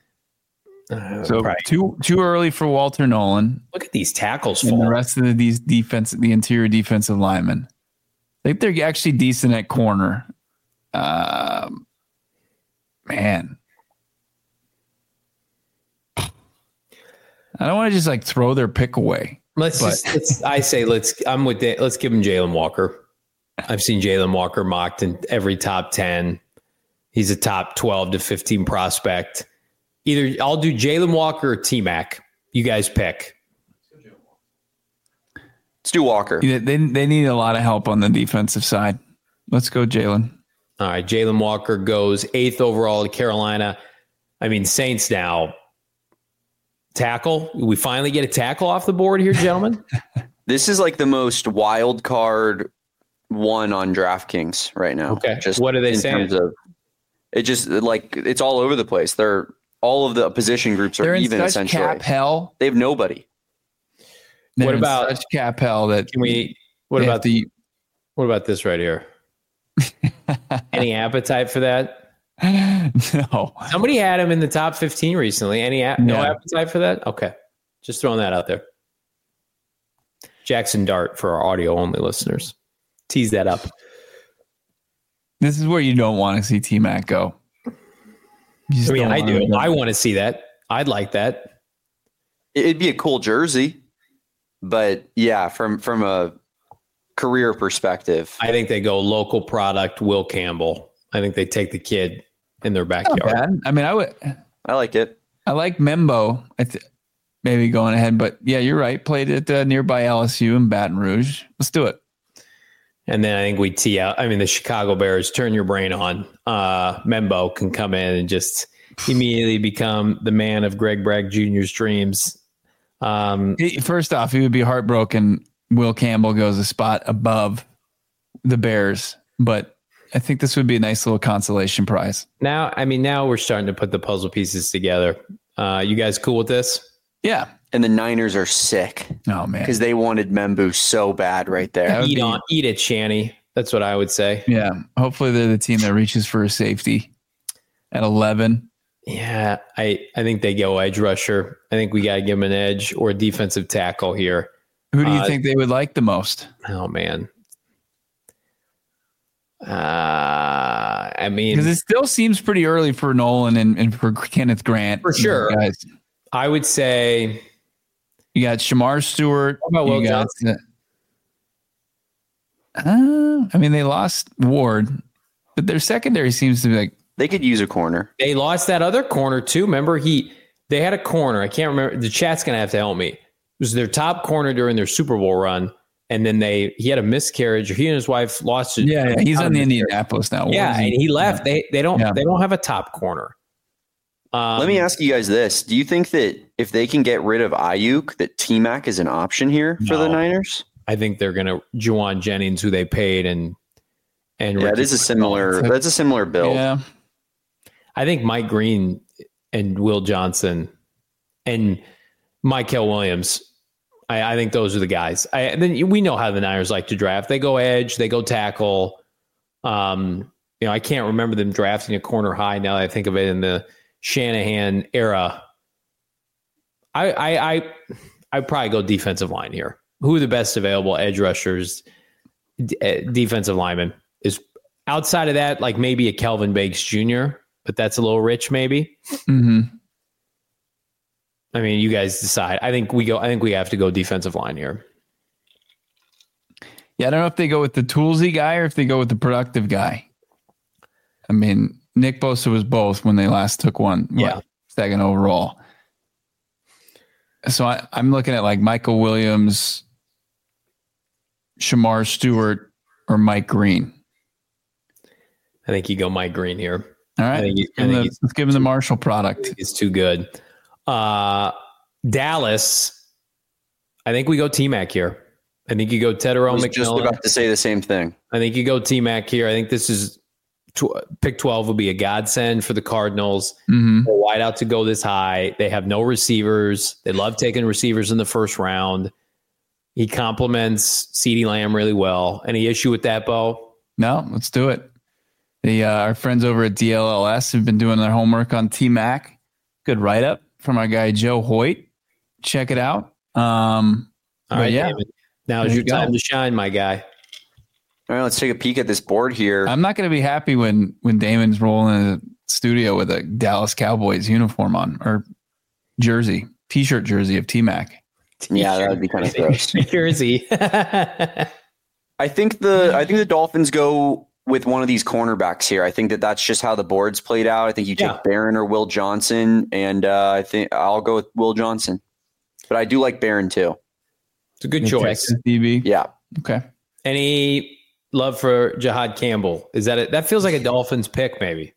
So too early for Walter Nolan. Look at these tackles and the rest of the interior defensive linemen. I think they're actually decent at corner. Man. I don't want to just like throw their pick away. I'm with Dave. Let's give him Jalen Walker. I've seen Jalen Walker mocked in every top 10. He's a top 12 to 15 prospect. Either I'll do Jalen Walker or T-Mac. You guys pick. Let's do Walker. They need a lot of help on the defensive side. Let's go Jalen. All right, Jalen Walker goes 8th overall to Carolina. I mean, Saints now. Tackle. We finally get a tackle off the board here, gentlemen. This is like the most wild card one on DraftKings right now. Okay. What are they saying? It just like it's all over the place. All of the position groups are even essentially. Cap hell. They have nobody. They're What in about- such cap hell that Can we? What about what about this right here? Any appetite for that? No. Somebody had him in the top 15 recently. No Yeah. appetite for that? Okay. Just throwing that out there. Jackson Dart for our audio only listeners. Tease that up. This is where you don't want to see T-Mac go. I mean, I do. I want to see that. I'd like that. It'd be a cool jersey, but yeah, from a career perspective, I think they go local product, Will Campbell. I think they take the kid in their Not backyard. bad. I mean, I like it. I like Membo. Maybe going ahead, but yeah, you're right. Played at nearby LSU in Baton Rouge. Let's do it. And then I think we tee out. I mean, the Chicago Bears, turn your brain on. Membo can come in and just immediately become the man of Greg Bragg Jr.'s dreams. First off, he would be heartbroken. Will Campbell goes a spot above the Bears, but I think this would be a nice little consolation prize. Now we're starting to put the puzzle pieces together. You guys cool with this? Yeah. And the Niners are sick Oh man. because they wanted Membu so bad right there. Eat it, Shanny. That's what I would say. Yeah. Hopefully they're the team that reaches for a safety at 11. Yeah, I think they go edge rusher. I think we got to give them an edge or defensive tackle here. Who do you think they would like the most? Oh, man. I mean, Because it still seems pretty early for Nolan and for Kenneth Grant. For sure. Guys. I would say You got Shamar Stewart. What about Will You got- I mean, they lost Ward, but their secondary seems to be like, They could use a corner. they lost that other corner too. Remember, they had a corner. I can't remember. The chat's gonna have to help me. It was their top corner during their Super Bowl run, and then he had a miscarriage. Or he and his wife lost it. yeah, he's on the Indianapolis now. Yeah, and he left. They don't have a top corner. Let me ask you guys this. Do you think that if they can get rid of Ayuk, that T-Mac is an option here for the No. Niners? I think they're gonna Juwan Jennings, who they paid, and Yeah, Ricky it is a similar. That's a similar build. Yeah. I think Mike Green and Will Johnson and Mykel Williams. I think those are the guys. Then we know how the Niners like to draft. They go edge, they go tackle. I can't remember them drafting a corner high now that I think of it in the Shanahan era. I probably go defensive line here. Who are the best available edge rushers, defensive linemen? Is outside of that, like maybe a Kelvin Banks Jr., but that's a little rich, maybe. Mm-hmm. I mean, you guys decide. I think we have to go defensive line here. Yeah, I don't know if they go with the toolsy guy or if they go with the productive guy. I mean, Nick Bosa was both when they last took one. Yeah. Second overall. So I'm looking at like Michael Williams, Shamar Stewart, or Mike Green. I think you go Mike Green here. All right. Let's give him the Marshall product. It's too good. Dallas, I think we go T-Mac here. I think you go Tedero I was just McMillan. about to say the same thing. I think you go T-Mac here. I think this is pick 12 will be a godsend for the Cardinals. Mm-hmm. They're wide out to go this high. They have no receivers. They love taking receivers in the first round. He complements CeeDee Lamb really well. Any issue with that, Bo? No, let's do it. Our friends over at DLLS have been doing their homework on T-Mac. Good write-up from our guy Joe Hoyt. Check it out. All right, yeah. David. Now is your time to shine, my guy. All right, let's take a peek at this board here. I'm not going to be happy when Damon's rolling in the studio with a Dallas Cowboys uniform on or t-shirt jersey of T-Mac. Yeah, that would be kind of gross. Jersey. I think the Dolphins go with one of these cornerbacks here. I think that's just how the board's played out. I think you take Barron or Will Johnson, and I think I'll go with Will Johnson. But I do like Barron too. It's a good choice. Texas DB. Yeah. Okay. Any love for Jahad Campbell? Is that that feels like a Dolphins pick, maybe?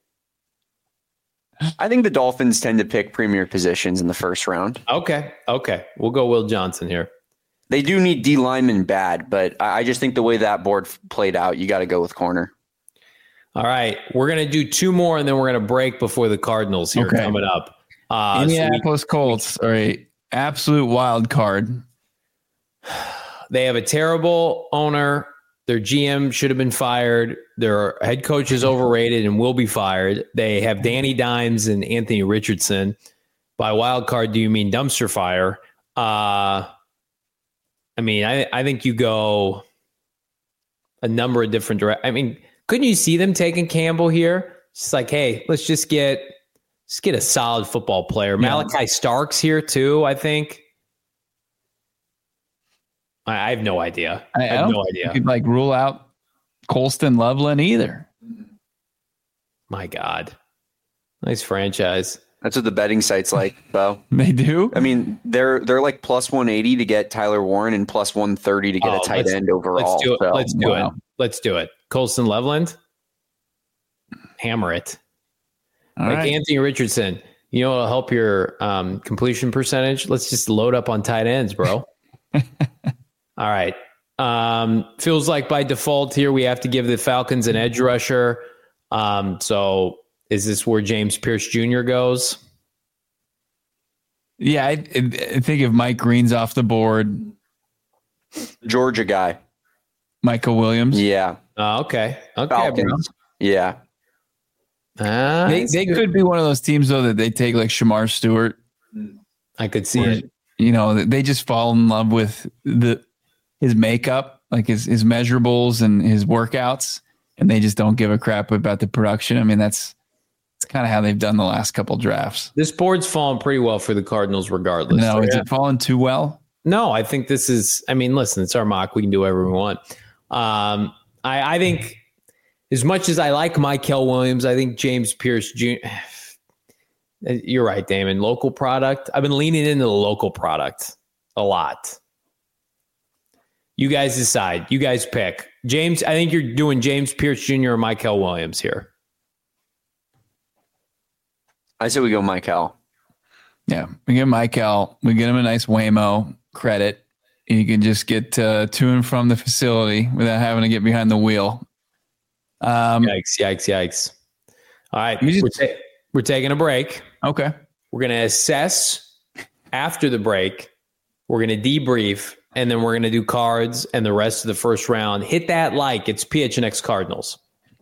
I think the Dolphins tend to pick premier positions in the first round. Okay. We'll go Will Johnson here. They do need D linemen bad, but I just think the way that board played out, you got to go with corner. All right. We're going to do two more, and then we're going to break before the Cardinals here coming up. Indianapolis Colts are a absolute wild card. They have a terrible owner. Their GM should have been fired. Their head coach is overrated and will be fired. They have Danny Dimes and Anthony Richardson. By wild card, do you mean dumpster fire? I think you go a number of different directions. I mean, couldn't you see them taking Campbell here? It's like, hey, let's get a solid football player. Yeah. Malachi Stark's here too, I think. I have no idea. I have no idea. You could rule out Colston Loveland either. My God. Nice franchise. That's what the betting sites like, Bo. They do? I mean, they're like plus 180 to get Tyler Warren and plus 130 to get a tight end overall. Let's do it. Let's do it. Colston Loveland. Hammer it. All right. Anthony Richardson. You know what'll help your completion percentage? Let's just load up on tight ends, bro. All right. Feels like by default here we have to give the Falcons an edge rusher. So is this where James Pierce Jr. goes? Yeah, I think if Mike Green's off the board. Georgia guy. Michael Williams? Yeah. Okay. Falcons. Bro. Yeah. They could be one of those teams, though, that they take like Shamar Stewart. I could see it. You know, they just fall in love with his makeup, like his measurables and his workouts, and they just don't give a crap about the production. I mean, that's kind of how they've done the last couple drafts. This board's fallen pretty well for the Cardinals regardless. No, is it fallen too well? No, I think this is, listen, it's our mock. We can do whatever we want. I think as much as I like Mykel Williams, I think James Pierce Jr., you're right, Damon. Local product. I've been leaning into the local product a lot. You guys decide. You guys pick. James, I think you're doing James Pierce Jr. or Mykel Williams here. I say we go Mykel. Yeah, we get Mykel. We get him a nice Waymo credit. You can just get to and from the facility without having to get behind the wheel. Yikes. All right, we're taking a break. Okay. We're going to assess after the break. We're going to debrief, and then we're going to do cards and the rest of the first round. Hit that like. It's PHNX Cardinals.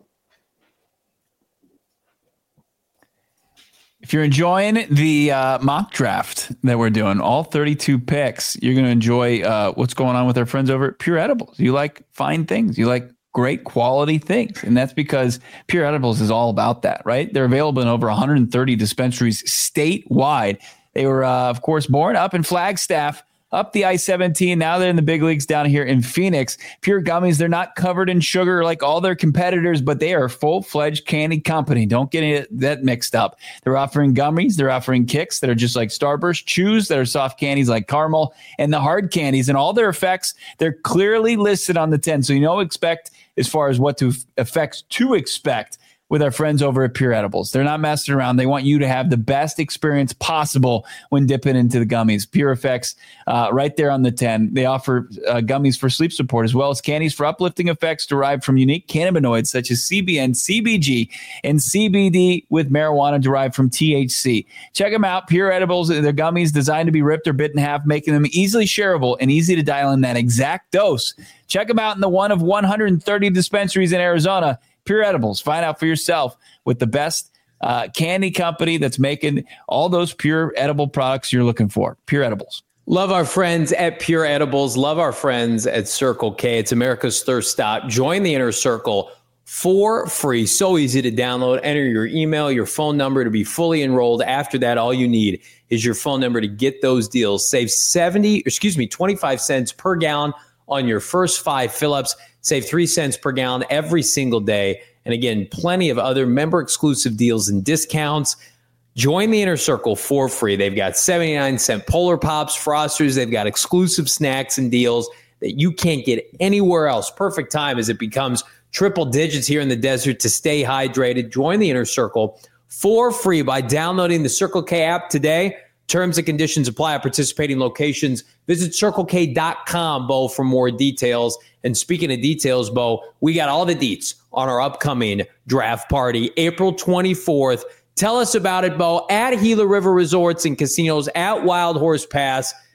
If you're enjoying the mock draft that we're doing, all 32 picks, you're going to enjoy what's going on with our friends over at Pure Edibles. You like fine things. You like great quality things. And that's because Pure Edibles is all about that, right? They're available in over 130 dispensaries statewide. They were, of course, born up in Flagstaff, up the I-17. Now they're in the big leagues down here in Phoenix. Pure Gummies, they're not covered in sugar like all their competitors, but they are a full-fledged candy company. Don't get that mixed up. They're offering gummies. They're offering kicks that are just like Starburst, chews that are soft candies like caramel, and the hard candies. And all their effects, they're clearly listed on the tin. So you know expect as far as what to effects to expect with our friends over at Pure Edibles. They're not messing around. They want you to have the best experience possible when dipping into the gummies. Pure Effects, right there on the 10. They offer gummies for sleep support as well as candies for uplifting effects derived from unique cannabinoids such as CBN, CBG, and CBD with marijuana derived from THC. Check them out. Pure Edibles, they're gummies designed to be ripped or bit in half, making them easily shareable and easy to dial in that exact dose. Check them out in the one of 130 dispensaries in Arizona. Pure Edibles. Find out for yourself with the best candy company that's making all those pure edible products you're looking for. Pure Edibles. Love our friends at Pure Edibles. Love our friends at Circle K. It's America's thirst stop. Join the Inner Circle for free. So easy to download. Enter your email, your phone number to be fully enrolled. After that, all you need is your phone number to get those deals. Save 25 cents per gallon on your first 5 fill-ups. Save 3 cents per gallon every single day. And again, plenty of other member-exclusive deals and discounts. Join the Inner Circle for free. They've got 79-cent Polar Pops, Frosters. They've got exclusive snacks and deals that you can't get anywhere else. Perfect time as it becomes triple digits here in the desert to stay hydrated. Join the Inner Circle for free by downloading the Circle K app today. Terms and conditions apply at participating locations. Visit CircleK.com, Bo, for more details. And speaking of details, Bo, we got all the deets on our upcoming draft party, April 24th. Tell us about it, Bo, at Gila River Resorts and Casinos, at Wild Horse Pass.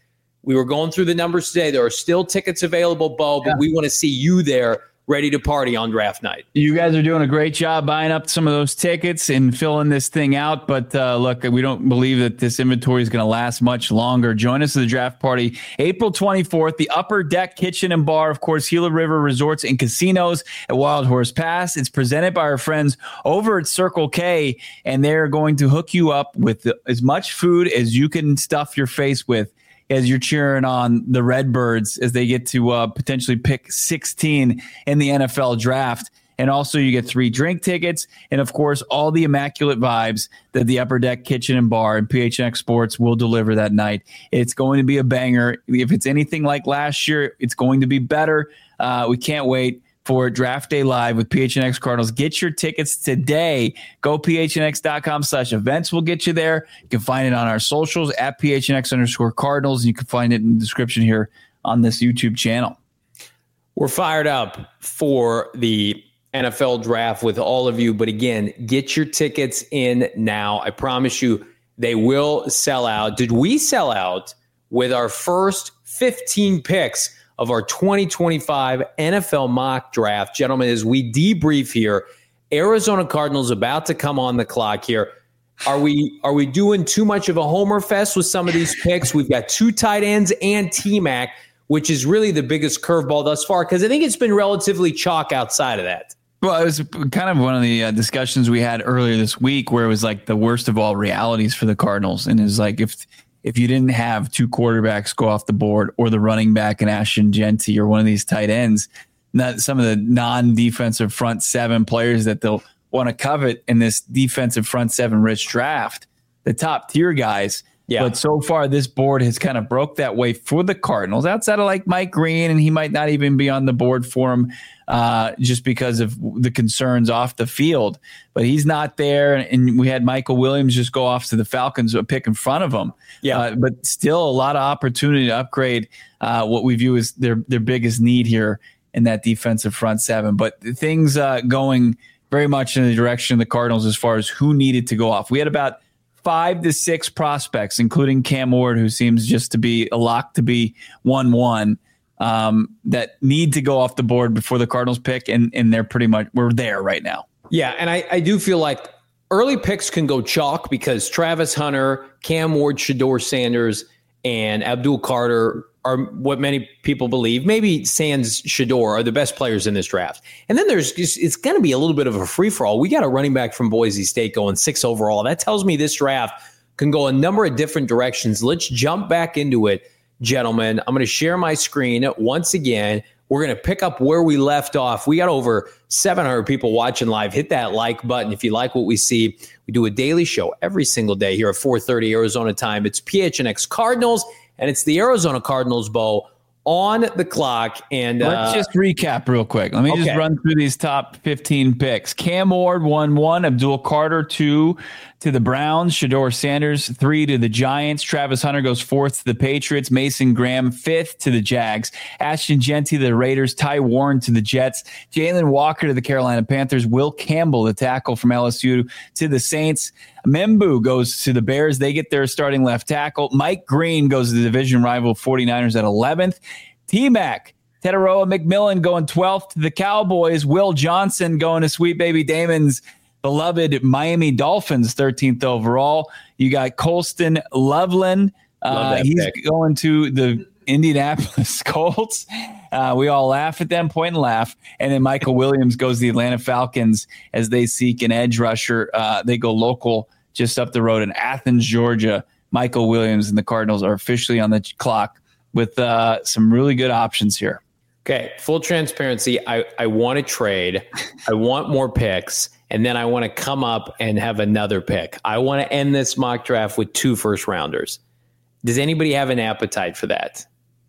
We were going through the numbers today. There are still tickets available, Bo, but we want to see you there ready to party on draft night. You guys are doing a great job buying up some of those tickets and filling this thing out. But look, we don't believe that this inventory is going to last much longer. Join us at the draft party April 24th, the Upper Deck Kitchen and Bar, of course, Gila River Resorts and Casinos at Wild Horse Pass. It's presented by our friends over at Circle K, and they're going to hook you up with as much food as you can stuff your face with as you're cheering on the Redbirds as they get to potentially pick 16 in the NFL draft. And also you get 3 drink tickets and, of course, all the immaculate vibes that the Upper Deck Kitchen and Bar and PHNX Sports will deliver that night. It's going to be a banger. If it's anything like last year, it's going to be better. We can't wait for Draft Day Live with PHNX Cardinals. Get your tickets today. Go phnx.com/events. We'll get you there. You can find it on our socials at PHNX_Cardinals. And you can find it in the description here on this YouTube channel. We're fired up for the NFL draft with all of you. But again, get your tickets in now. I promise you they will sell out. Did we sell out with our first 15 picks of our 2025 NFL mock draft? Gentlemen, as we debrief here, Arizona Cardinals about to come on the clock here. Are we doing too much of a homer fest with some of these picks? We've got 2 tight ends and T-Mac, which is really the biggest curveball thus far, because I think it's been relatively chalk outside of that. Well, it was kind of one of the discussions we had earlier this week where it was like the worst of all realities for the Cardinals. And it's like if you didn't have 2 quarterbacks go off the board or the running back in Ashton Jeanty or one of these tight ends, not some of the non-defensive front 7 players that they'll want to covet in this defensive front 7 rich draft, the top tier guys. Yeah. But so far, this board has kind of broke that way for the Cardinals outside of like Mike Green, and he might not even be on the board for him just because of the concerns off the field. But he's not there, and we had Michael Williams just go off to the Falcons, a pick in front of him. Yeah. But still a lot of opportunity to upgrade what we view as their biggest need here in that defensive front 7. But things going very much in the direction of the Cardinals as far as who needed to go off. We had about 5 to 6 prospects, including Cam Ward, who seems just to be a lock to be 1-1, that need to go off the board before the Cardinals pick, and they're pretty much, we're there right now. Yeah, and I do feel like early picks can go chalk because Travis Hunter, Cam Ward, Shedeur Sanders, and Abdul Carter are what many people believe, maybe Sans Shedeur, are the best players in this draft. And then it's going to be a little bit of a free-for-all. We got a running back from Boise State going 6 overall. That tells me this draft can go a number of different directions. Let's jump back into it, gentlemen. I'm going to share my screen once again. We're going to pick up where we left off. We got over 700 people watching live. Hit that like button if you like what we see. We do a daily show every single day here at 4:30 Arizona time. It's PHNX Cardinals, and it's the Arizona Cardinals, Bo, on the clock. And let's just recap real quick. Let me just run through these top 15 picks. Cam Ward, 1-1. Abdul Carter, 2 to the Browns. Shedeur Sanders, 3 to the Giants. Travis Hunter goes 4th to the Patriots. Mason Graham, 5th to the Jags. Ashton Jeanty to the Raiders. Ty Warren to the Jets. Jalen Walker to the Carolina Panthers. Will Campbell, the tackle from LSU, to the Saints. Membu goes to the Bears. They get their starting left tackle. Mike Green goes to the division rival 49ers at 11th. T-Mac, Tetaroa McMillan going 12th to the Cowboys. Will Johnson going to Sweet Baby Damon's beloved Miami Dolphins, 13th overall. You got Colston Loveland. He's going to the Indianapolis Colts. We all laugh at them, point and laugh. And then Michael Williams goes to the Atlanta Falcons as they seek an edge rusher. They go local just up the road in Athens, Georgia. Michael Williams and the Cardinals are officially on the clock with some really good options here. Okay, full transparency. I want to trade. I want more picks. And then I want to come up and have another pick. I want to end this mock draft with 2 first-rounders. Does anybody have an appetite for that?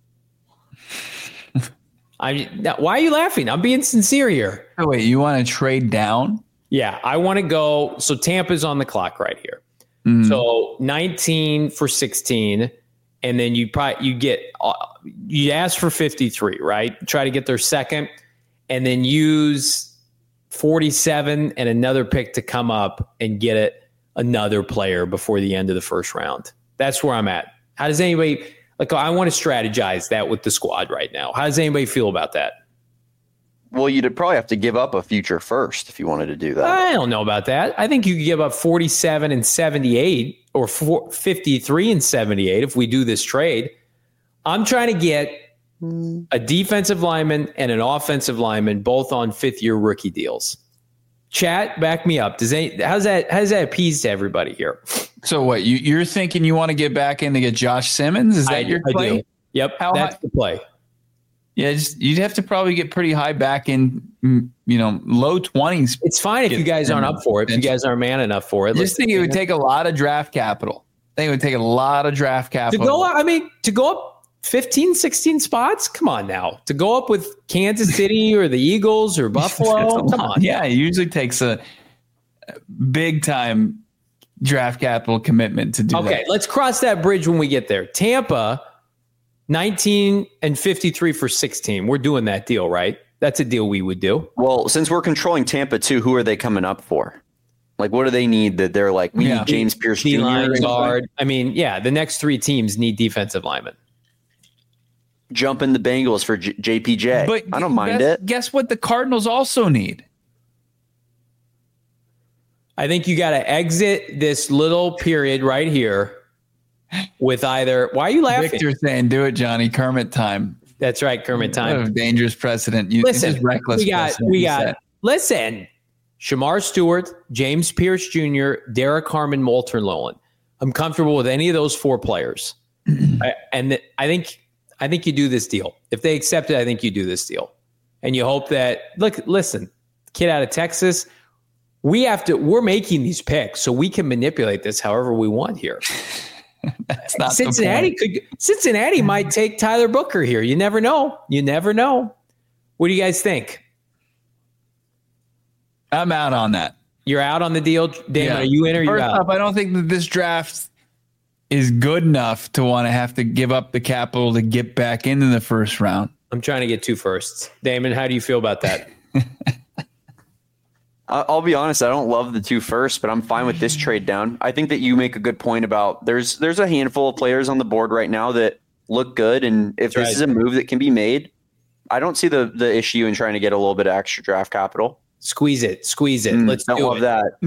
Why are you laughing? I'm being sincere here. Oh, wait, you want to trade down? Yeah, I want to go. So Tampa's on the clock right here. Mm-hmm. So 19 for 16. And then you ask for 53, right? Try to get their second, and then use 47 and another pick to come up and get another player before the end of the first round. That's where I'm at. How does anybody? Like, I want to strategize that with the squad right now. How does anybody feel about that? Well, you'd probably have to give up a future first if you wanted to do that. I don't know about that. I think you could give up 47 and 78 or 53 and 78 if we do this trade. I'm trying to get a defensive lineman and an offensive lineman both on fifth-year rookie deals. Chat, back me up. How's that appease to everybody here? So what? You're thinking you want to get back in to get Josh Simmons? Is that your play? Do. Yep, that's the play. Yeah, you'd have to probably get pretty high back in, low 20s. It's fine if you guys aren't up for it. If you guys aren't man enough for it. I just think it would take a lot of draft capital. I think it would take a lot of draft capital. To go up 15, 16 spots? Come on now. To go up with Kansas City or the Eagles or Buffalo? Come on. Yeah, it usually takes a big time draft capital commitment to do that. Okay, let's cross that bridge when we get there. Tampa, 19 and 53 for 16. We're doing that deal, right? That's a deal we would do. Well, since we're controlling Tampa too, who are they coming up for? Like, what do they need that they're like, we need James Pierce Jr. guard. I mean, the next three teams need defensive linemen. Jump in the Bengals for JPJ. But I don't mind it. Guess what the Cardinals also need? I think you got to exit this little period right here with either. Why are you laughing? Victor saying, "Do it, Johnny." Kermit time. That's right, Kermit time. What a dangerous precedent. Listen, reckless. We got. Listen, Shamar Stewart, James Pierce Jr., Derek Harmon, Moulton Nolan. I'm comfortable with any of those four players, I think you do this deal. If they accept it, I think you do this deal, and you hope that. Listen, kid out of Texas. We're making these picks so we can manipulate this however we want here. That's not Cincinnati might take Tyler Booker here. You never know. What do you guys think? I'm out on that. You're out on the deal? Damon, are you in or you're out? First off, I don't think that this draft is good enough to want to have to give up the capital to get back into the first round. I'm trying to get 2 firsts. Damon, how do you feel about that? I'll be honest, I don't love the 2 firsts, but I'm fine with this trade down. I think that you make a good point about there's a handful of players on the board right now that look good, and if this is a move that can be made, I don't see the issue in trying to get a little bit of extra draft capital. Squeeze it. Let's don't love that.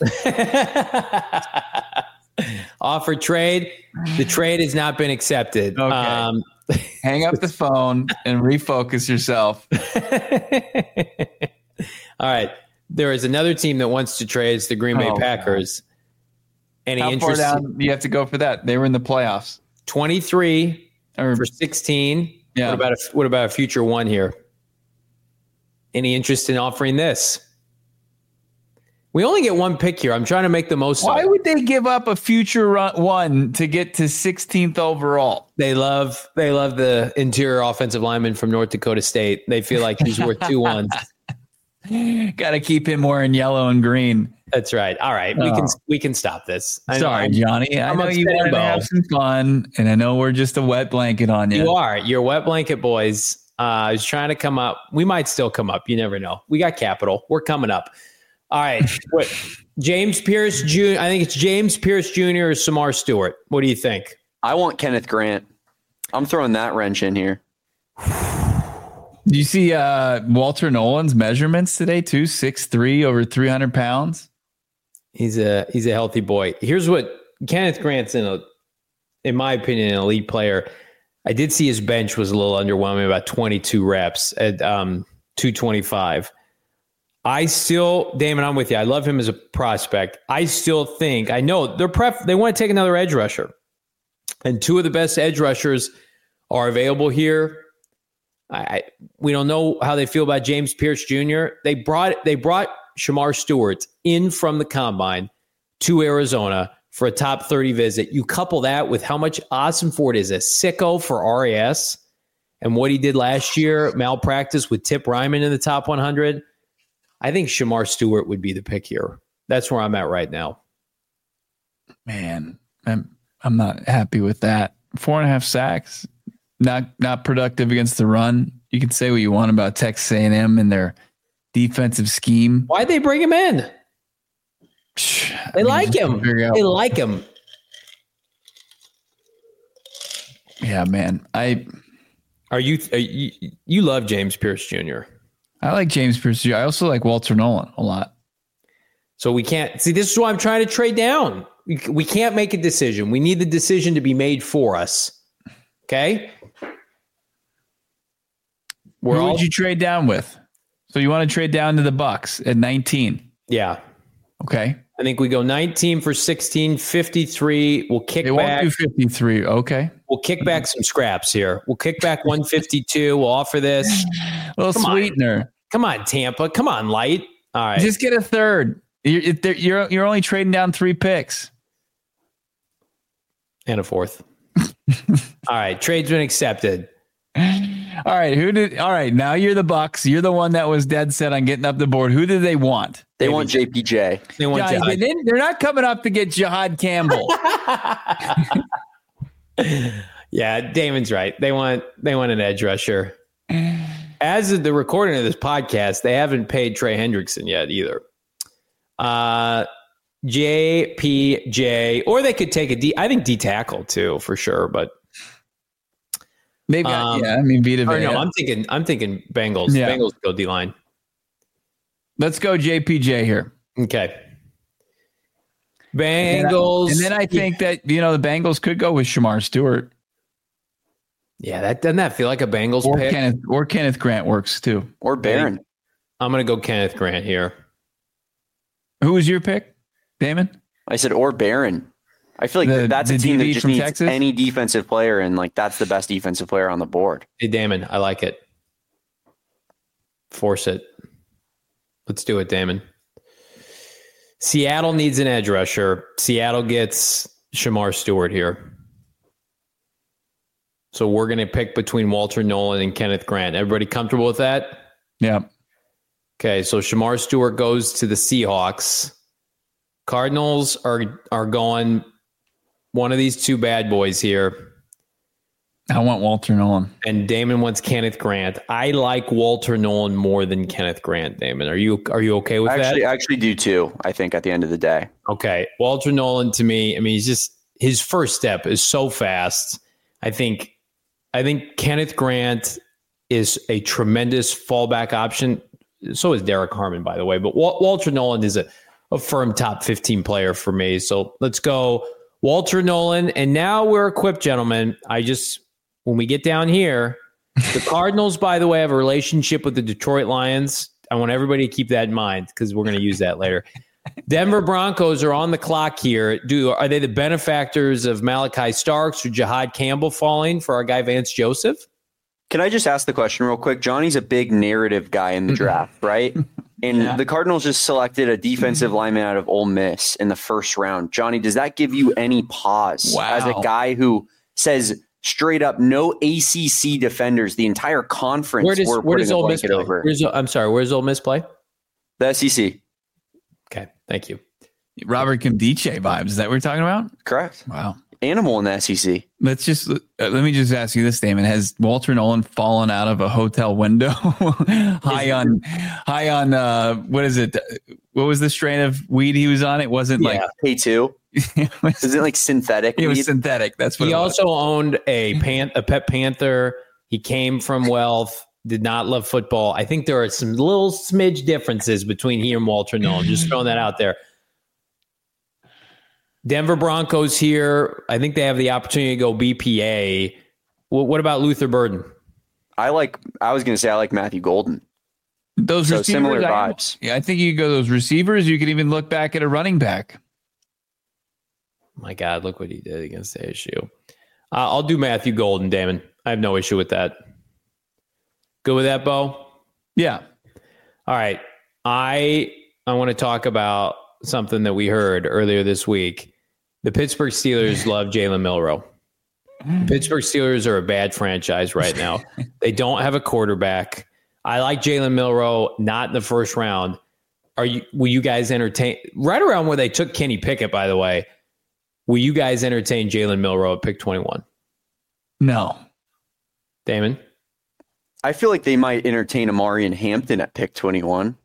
Offer trade. The trade has not been accepted. Okay. Hang up the phone and refocus yourself. All right. There is another team that wants to trade. It's the Green Bay Packers. Any How interest? Far down do you have to go for that? They were in the playoffs. 23 for 16. Yeah. What about a future one here? Any interest in offering this? We only get 1 pick here. I'm trying to make the most of it. Why would they give up a future one to get to 16th overall? They love the interior offensive lineman from North Dakota State. They feel like he's worth 2 ones. Got to keep him wearing yellow and green. That's right. All right, we can stop this. Sorry, Johnny. I know you want to have some fun, and I know we're just a wet blanket on you. You are. You're wet blanket boys. I was trying to come up. We might still come up. You never know. We got capital. We're coming up. All right. James Pierce Jr. I think it's James Pierce Jr. or Samar Stewart. What do you think? I want Kenneth Grant. I'm throwing that wrench in here. Do you see Walter Nolan's measurements today too? 6'3", over 300 pounds. He's a healthy boy. Here's what Kenneth Grant's in my opinion, an elite player. I did see his bench was a little underwhelming, about 22 reps at 225. Damon, I'm with you. I love him as a prospect. I still think, I know they want to take another edge rusher. And 2 of the best edge rushers are available here. We don't know how they feel about James Pierce Jr. They brought Shamar Stewart in from the combine to Arizona for a top 30 visit. You couple that with how much Austin Ford is a sicko for RAS and what he did last year, malpractice with Tip Ryman in the top 100. I think Shamar Stewart would be the pick here. That's where I'm at right now. Man, I'm not happy with that. 4.5 sacks. Not productive against the run. You can say what you want about Texas A&M and their defensive scheme. Why'd they bring him in? They like him. Yeah, man. You love James Pierce Jr. I like James Pierce Jr. I also like Walter Nolan a lot. So we can't see. This is why I'm trying to trade down. We can't make a decision. We need the decision to be made for us. Okay. Who would you trade down with? So you want to trade down to the Bucks at 19? Yeah. Okay. I think we go 19 for 16, 53. We'll kick back. Won't do 53. Okay. We'll kick back some scraps here. We'll kick back 152. We'll offer this. A little sweetener. Come on, Tampa. Come on, Light. All right. Just get a third. You're only trading down 3 picks. And a fourth. All right. Trade's been accepted. All right. Now you're the Bucks. You're the one that was dead set on getting up the board. Who do they want? They want JPJ. They want Jihad. They're not coming up to get Jihad Campbell. Yeah, Damon's right. They want an edge rusher. As of the recording of this podcast, they haven't paid Trey Hendrickson yet either. JPJ, or they could take I think D tackle too for sure, but they've got Vita Vea. No, I'm thinking Bengals. Yeah. Bengals go D line. Let's go JPJ here. Okay. Bengals. And then I think that the Bengals could go with Shamar Stewart. Yeah, doesn't that feel like a Bengals pick? Kenneth Grant works too. Or Barron. I'm going to go Kenneth Grant here. Who was your pick, Damon? I said or Barron. I feel like that's a team that just needs Texas? Any defensive player, and that's the best defensive player on the board. Hey, Damon, I like it. Force it. Let's do it, Damon. Seattle needs an edge rusher. Seattle gets Shamar Stewart here. So we're going to pick between Walter Nolan and Kenneth Grant. Everybody comfortable with that? Yeah. Okay, so Shamar Stewart goes to the Seahawks. Cardinals are going one of these two bad boys here. I want Walter Nolan. And Damon wants Kenneth Grant. I like Walter Nolan more than Kenneth Grant, Damon. Are you okay with that? I actually do too, I think, at the end of the day. Okay. Walter Nolan, to me, he's just his first step is so fast. I think Kenneth Grant is a tremendous fallback option. So is Derek Harmon, by the way. But Walter Nolan is a firm top 15 player for me. So let's go Walter Nolan. And now we're equipped, gentlemen. When we get down here, the Cardinals, by the way, have a relationship with the Detroit Lions. I want everybody to keep that in mind because we're going to use that later. Denver Broncos are on the clock here. Are they the benefactors of Malachi Starks or Jihad Campbell falling for our guy Vance Joseph? Can I just ask the question real quick? Johnny's a big narrative guy in the draft, right? And the Cardinals just selected a defensive lineman out of Ole Miss in the first round. Johnny, does that give you any pause as a guy who says straight up no ACC defenders? The entire conference where does Ole Miss play? Over. Where's Ole Miss play? The SEC. Okay, thank you. Robert Kimdiche vibes. Is that what we're talking about? Correct. Wow. Animal in the SEC. Let me just ask you this, Damon. Has Walter Nolan fallen out of a hotel window high on what is it? What was the strain of weed he was on? It wasn't like K2. Is it like synthetic? It was synthetic. That's what he also owned a pet panther. He came from wealth, did not love football. I think there are some little smidge differences between he and Walter Nolan. Just throwing that out there. Denver Broncos here. I think they have the opportunity to go BPA. What about Luther Burden? I like Matthew Golden. Those receivers, similar vibes. I think you could go those receivers. You could even look back at a running back. My God, look what he did against ASU. I'll do Matthew Golden, Damon. I have no issue with that. Good with that, Bo? Yeah. All right. I want to talk about something that we heard earlier this week. The Pittsburgh Steelers love Jalen Milroe. The Pittsburgh Steelers are a bad franchise right now. They don't have a quarterback. I like Jalen Milroe, not in the first round. Will you guys entertain right around where they took Kenny Pickett, by the way? Will you guys entertain Jalen Milroe at pick 21? No. Damon? I feel like they might entertain Amari and Hampton at pick 21.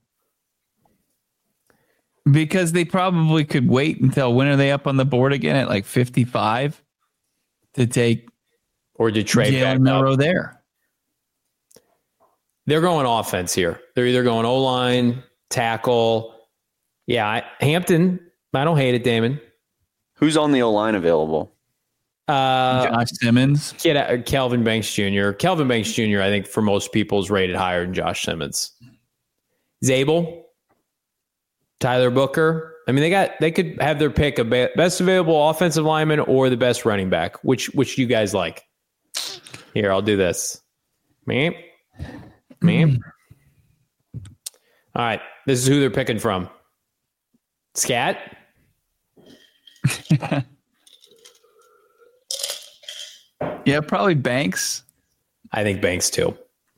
Because they probably could wait until when are they up on the board again at like 55 to take Or to trade back Jalen Milrow up. there. They're going offense here. They're either going O-line, tackle. Yeah, Hampton. I don't hate it, Damon. Who's on the O-line available? Josh Simmons. Kelvin Banks Jr. Kelvin Banks Jr., I think, for most people is rated higher than Josh Simmons. Zabel, Tyler Booker. I mean, they could have their pick of best available offensive lineman or the best running back. Which you guys like? Here, I'll do this. Me. All right, this is who they're picking from. Scat. Yeah, probably Banks. I think Banks too.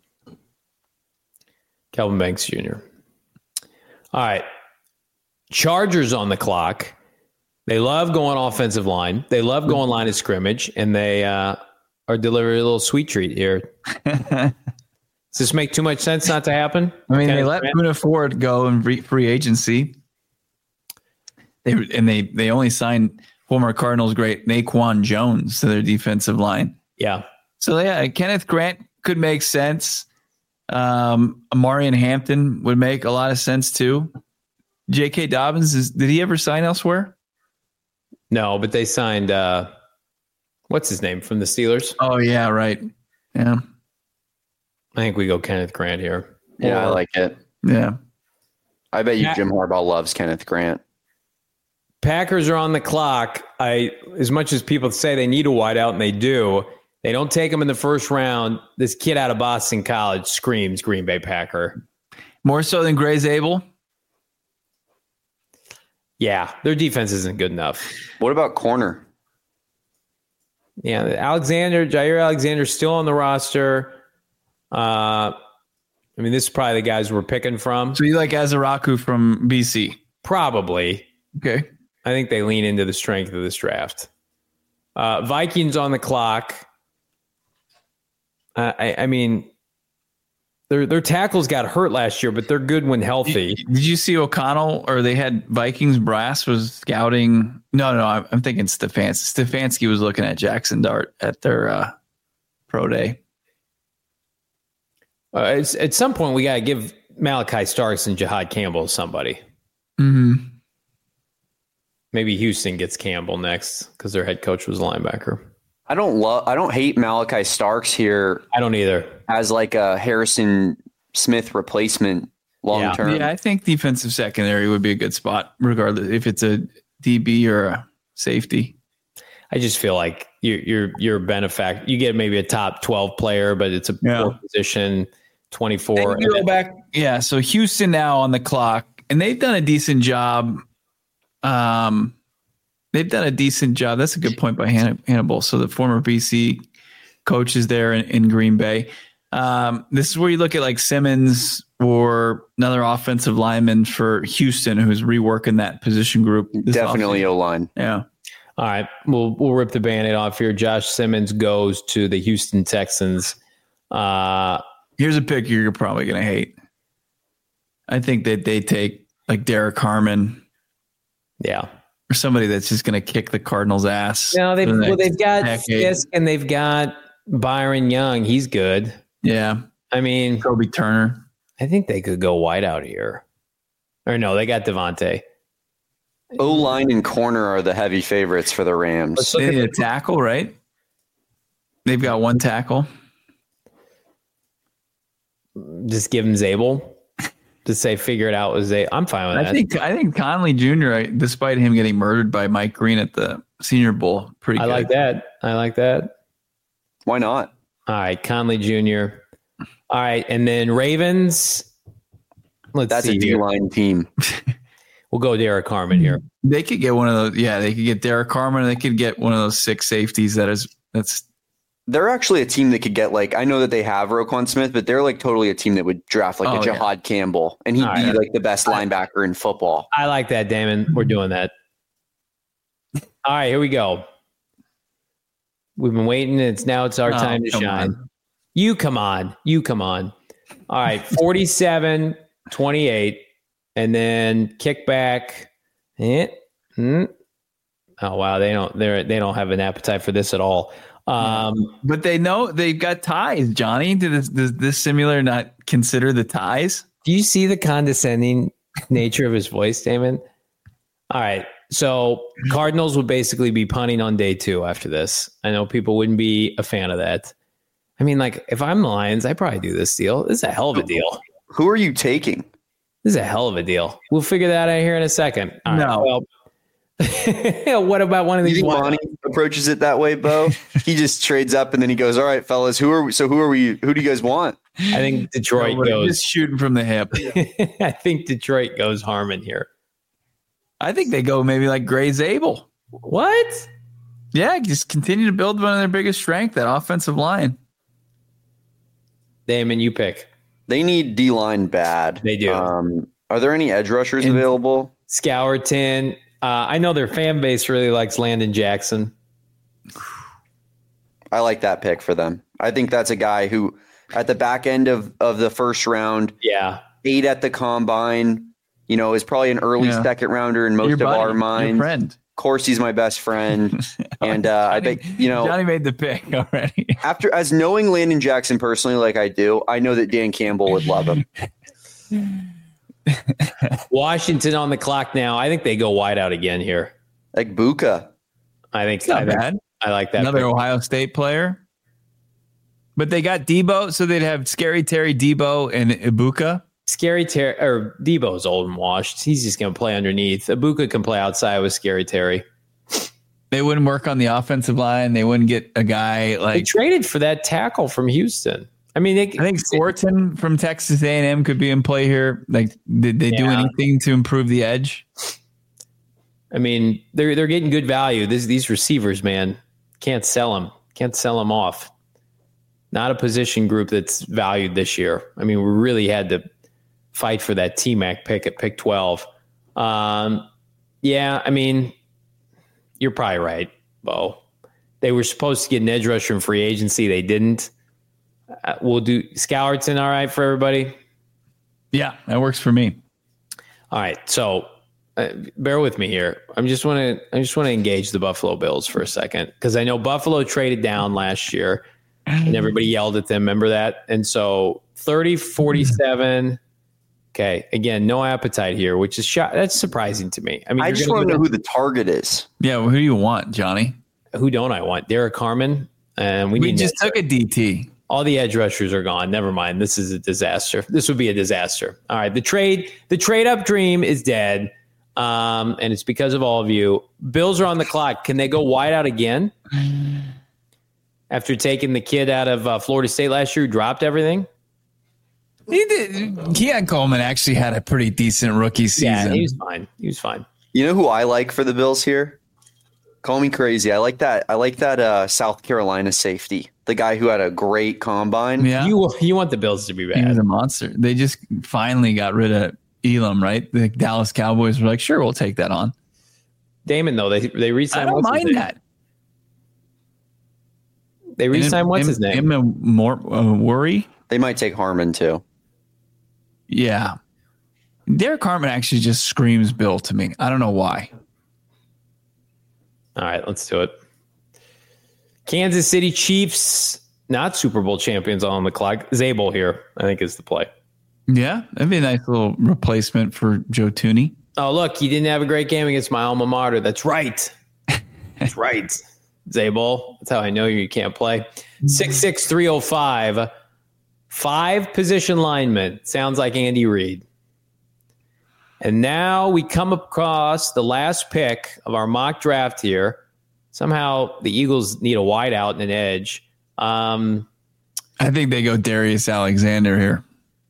Kelvin Banks Jr. All right. Chargers on the clock. They love going offensive line. They love going line of scrimmage, and they are delivering a little sweet treat here. Does this make too much sense not to happen? I mean, they let Poona Ford go in free agency. They only signed former Cardinals great Naquan Jones to their defensive line. Yeah. So yeah, Kenneth Grant could make sense. Amarian Hampton would make a lot of sense too. J.K. Dobbins, did he ever sign elsewhere? No, but they signed what's his name from the Steelers? Oh yeah, right. Yeah. I think we go Kenneth Grant here. Yeah, I like it. Yeah. I bet you Jim Harbaugh loves Kenneth Grant. Packers are on the clock. As much as people say they need a wideout, and they do, they don't take him in the first round. This kid out of Boston College screams Green Bay Packer. More so than Gray Zabel? Yeah, their defense isn't good enough. What about corner? Yeah, Jair Alexander's still on the roster. I mean, this is probably the guys we're picking from. So you like Azaraku from BC? Probably. Okay. I think they lean into the strength of this draft. Vikings on the clock. I mean, their tackles got hurt last year, but they're good when healthy. Did you see O'Connell, or they had Vikings brass was scouting? No, I'm thinking Stefanski. Stefanski was looking at Jackson Dart at their pro day. At some point, we got to give Malachi Starks and Jihad Campbell somebody. Mm-hmm. Maybe Houston gets Campbell next because their head coach was a linebacker. I don't hate Malachi Starks here. I don't either. As like a Harrison Smith replacement long term. Yeah, I think defensive secondary would be a good spot, regardless if it's a DB or a safety. I just feel like you're a benefactor. You get maybe a top 12 player, but it's a poor position, 24. You go back. Yeah, so Houston now on the clock, and they've done a decent job. They've done a decent job. That's a good point by Hannibal. So the former BC coach is there in Green Bay. This is where you look at like Simmons or another offensive lineman for Houston who's reworking that position group. Definitely O-line. Yeah. All right, we'll rip the Band-Aid off here. Josh Simmons goes to the Houston Texans. Here's a pick you're probably going to hate. I think that they take like Derek Harmon. Yeah. Or somebody that's just going to kick the Cardinals' ass. No, they've got Fisk and they've got Byron Young. He's good. Yeah. I mean, Kobe Turner. I think they could go wide out here. Or no, they got Devontae. O-line and corner are the heavy favorites for the Rams. They need a tackle, right? They've got one tackle. Just give him Zabel. Just say figure it out with Zabel. I'm fine with that. I think Conley Jr., despite him getting murdered by Mike Green at the Senior Bowl, pretty good. I like that. Why not? All right, Conley Jr. All right, and then Ravens. That's a D-line team. We'll go Derek Harmon here. They could get one of those. Yeah, they could get Derek Harmon. They could get one of those 6 safeties. That's. They're actually a team that could get like, I know that they have Roquan Smith, but they're like totally a team that would draft like a Jihad Campbell, and he'd be like the best linebacker in football. I like that, Damon. We're doing that. All right, here we go. We've been waiting. It's our time to shine. You come on. All right, 47-28. And then kickback. Oh wow, they don't have an appetite for this at all. But they know they've got ties, Johnny. Does this simulator not consider the ties? Do you see the condescending nature of his voice, Damon? All right. So Cardinals would basically be punting on day 2 after this. I know people wouldn't be a fan of that. I mean, like, if I'm the Lions, I'd probably do this deal. This is a hell of a deal. Who are you taking? This is a hell of a deal. We'll figure that out here in a second. All right, No. well, what about one of You these? think Monty approaches it that way, Bo? He just trades up and then he goes, "All right, fellas, who are we? Who do you guys want?" I think Detroit goes. Just shooting from the hip. I think Detroit goes Harmon here. I think they go maybe like Gray Zabel. What? Yeah, just continue to build one of their biggest strength, that offensive line. Damon, you pick. They need D-line bad. They do. Are there any edge rushers available? Scourton. I know their fan base really likes Landon Jackson. I like that pick for them. I think that's a guy who, at the back end of the first round, 8 at the combine, is probably an early second rounder in most of our minds. Your friend. Of course, he's my best friend. And I bet, Johnny made the pick already. as knowing Landon Jackson personally, like I do, I know that Dan Campbell would love him. Washington on the clock now. I think they go wide out again here. Like Buka. I think not bad. I like that. Another pick. Ohio State player. But they got Debo, so they'd have Scary Terry, Debo, and Ibuka. Scary Terry or Debo's old and washed. He's just going to play underneath. Ibuka can play outside with Scary Terry. They wouldn't work on the offensive line. They wouldn't get a guy like they traded for that tackle from Houston. I mean, I think Thornton from Texas A&M could be in play here. Like, did they do anything to improve the edge? I mean, they're getting good value. These receivers, man, can't sell them. Can't sell them off. Not a position group that's valued this year. I mean, we really had to fight for that T-Mac pick at pick 12. I mean, you're probably right, Bo. They were supposed to get an edge rusher in free agency. They didn't. We'll do Scourton, all right, for everybody? Yeah, that works for me. All right, so bear with me here. I just want to engage the Buffalo Bills for a second because I know Buffalo traded down last year and everybody yelled at them. Remember that? And so 30-47. Okay, again, no appetite here, which is that's surprising to me. I mean, I just want to know who the target is. Yeah, well, who do you want, Johnny? Who don't I want? Derek Harmon, and we just took a DT. All the edge rushers are gone. Never mind. This is a disaster. This would be a disaster. All right, the trade up dream is dead, and it's because of all of you. Bills are on the clock. Can they go wide out again after taking the kid out of Florida State last year who dropped everything? He did. Keon Coleman actually had a pretty decent rookie season. Yeah, he was fine. He was fine. You know who I like for the Bills here? Call me crazy. I like that South Carolina safety, the guy who had a great combine. Yeah. You want the Bills to be bad. He was a monster. They just finally got rid of Elam, right? The Dallas Cowboys were like, sure, we'll take that on. Damon, though, they re-signed. I don't mind that. They re-signed what's his name? Worry. They might take Harmon too. Yeah. Derek Harmon actually just screams Bill to me. I don't know why. All right, let's do it. Kansas City Chiefs, not Super Bowl champions on the clock. Zabel here, I think, is the play. Yeah, that'd be a nice little replacement for Joe Thuney. Oh, look, he didn't have a great game against my alma mater. That's right. That's right. Zabel, that's how I know you can't play. 6'6", 305. 5 position linemen. Sounds like Andy Reid. And now we come across the last pick of our mock draft here. Somehow the Eagles need a wideout and an edge. I think they go Darius Alexander here.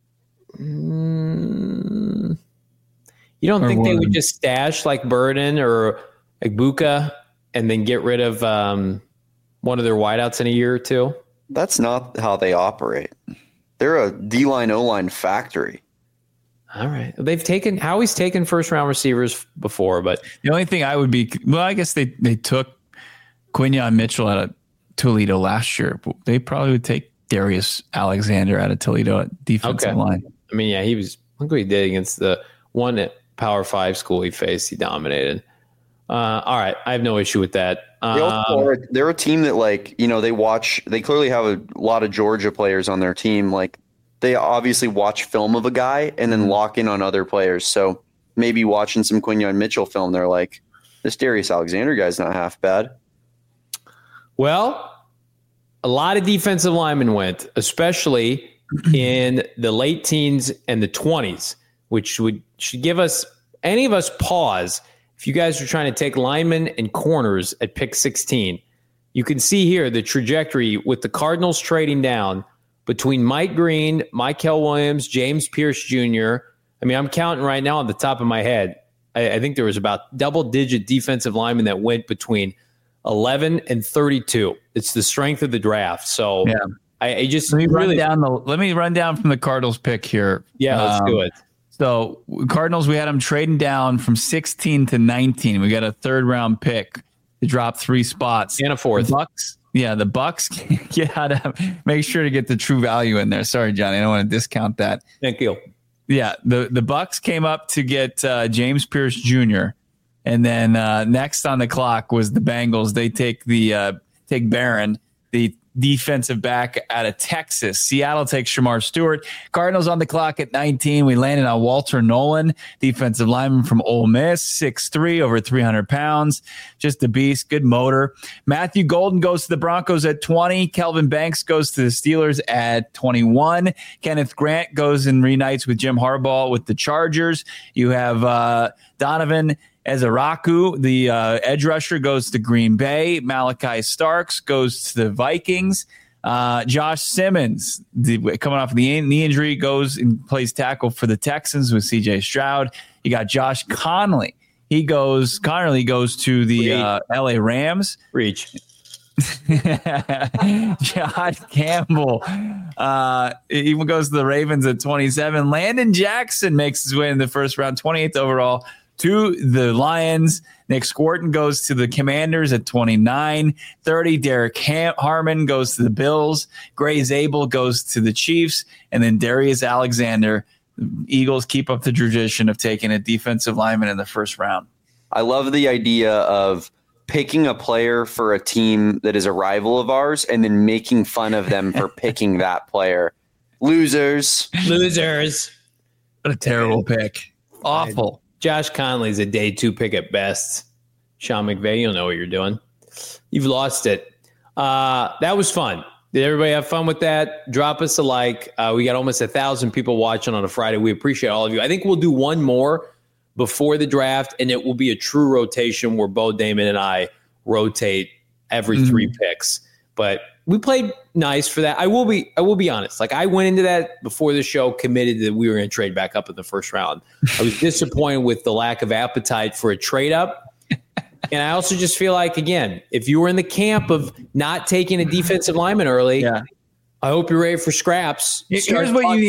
You don't think they would just stash like Burden or Ibuka and then get rid of one of their wideouts in a year or two? That's not how they operate. They're a D-line, O-line factory. All right. Howie's taken first-round receivers before, but the only thing I would be, I guess they took Quinyon Mitchell out of Toledo last year. They probably would take Darius Alexander out of Toledo at defensive line. I mean, yeah, look what he did against the one at Power 5 school he faced. He dominated. All right. I have no issue with that. They're a team that, like, you know, they clearly have a lot of Georgia players on their team. Like, they obviously watch film of a guy and then lock in on other players. So maybe watching some Quinyon Mitchell film, they're like, this Darius Alexander guy's not half bad. Well, a lot of defensive linemen went, especially in the late teens and the 20s, which should give any of us pause. If you guys are trying to take linemen and corners at pick 16, you can see here the trajectory with the Cardinals trading down between Mike Green, Mykel Williams, James Pierce Jr. I mean, I'm counting right now on the top of my head. I think there was about double-digit defensive linemen that went between 11 and 32. It's the strength of the draft. So yeah. I just let me run down from the Cardinals pick here. Yeah, let's do it. So Cardinals, we had them trading down from 16 to 19. We got a 3rd round pick to drop 3 spots and a 4th. The Bucks gotta make sure to get the true value in there. Sorry, Johnny, I don't want to discount that. Thank you. Yeah, the Bucks came up to get James Pierce Jr. And then next on the clock was the Bengals. They take Barron, the defensive back out of Texas. Seattle takes Shamar Stewart. Cardinals on the clock at 19. We landed on Walter Nolan, defensive lineman from Ole Miss, 6'3", over 300 pounds. Just a beast, good motor. Matthew Golden goes to the Broncos at 20. Kelvin Banks goes to the Steelers at 21. Kenneth Grant goes and reunites with Jim Harbaugh with the Chargers. You have Donovan Ezaraku, the edge rusher, goes to Green Bay. Malachi Starks goes to the Vikings. Josh Simmons, coming off the knee injury, goes and plays tackle for the Texans with C.J. Stroud. You got Josh Connerly. Connerly goes to the L.A. Rams. Reach. Josh Campbell even goes to the Ravens at 27. Landon Jackson makes his way in the first round, 28th overall, to the Lions. Nick Squarton goes to the Commanders at 29. 30, Derek Harmon goes to the Bills. Gray Zabel goes to the Chiefs. And then Darius Alexander. The Eagles keep up the tradition of taking a defensive lineman in the first round. I love the idea of picking a player for a team that is a rival of ours and then making fun of them for picking that player. Losers. What a terrible pick. Awful. Josh Conley's a day 2 pick at best. Sean McVay, you don't know what you're doing. You've lost it. That was fun. Did everybody have fun with that? Drop us a like. We got almost 1,000 people watching on a Friday. We appreciate all of you. I think we'll do one more before the draft, and it will be a true rotation where Bo Damon and I rotate every 3 picks. But we played nice for that. I will be honest. Like, I went into that before the show committed that we were going to trade back up in the first round. I was disappointed with the lack of appetite for a trade up. And I also just feel like, again, if you were in the camp of not taking a defensive lineman early, I hope you're ready for scraps. Here's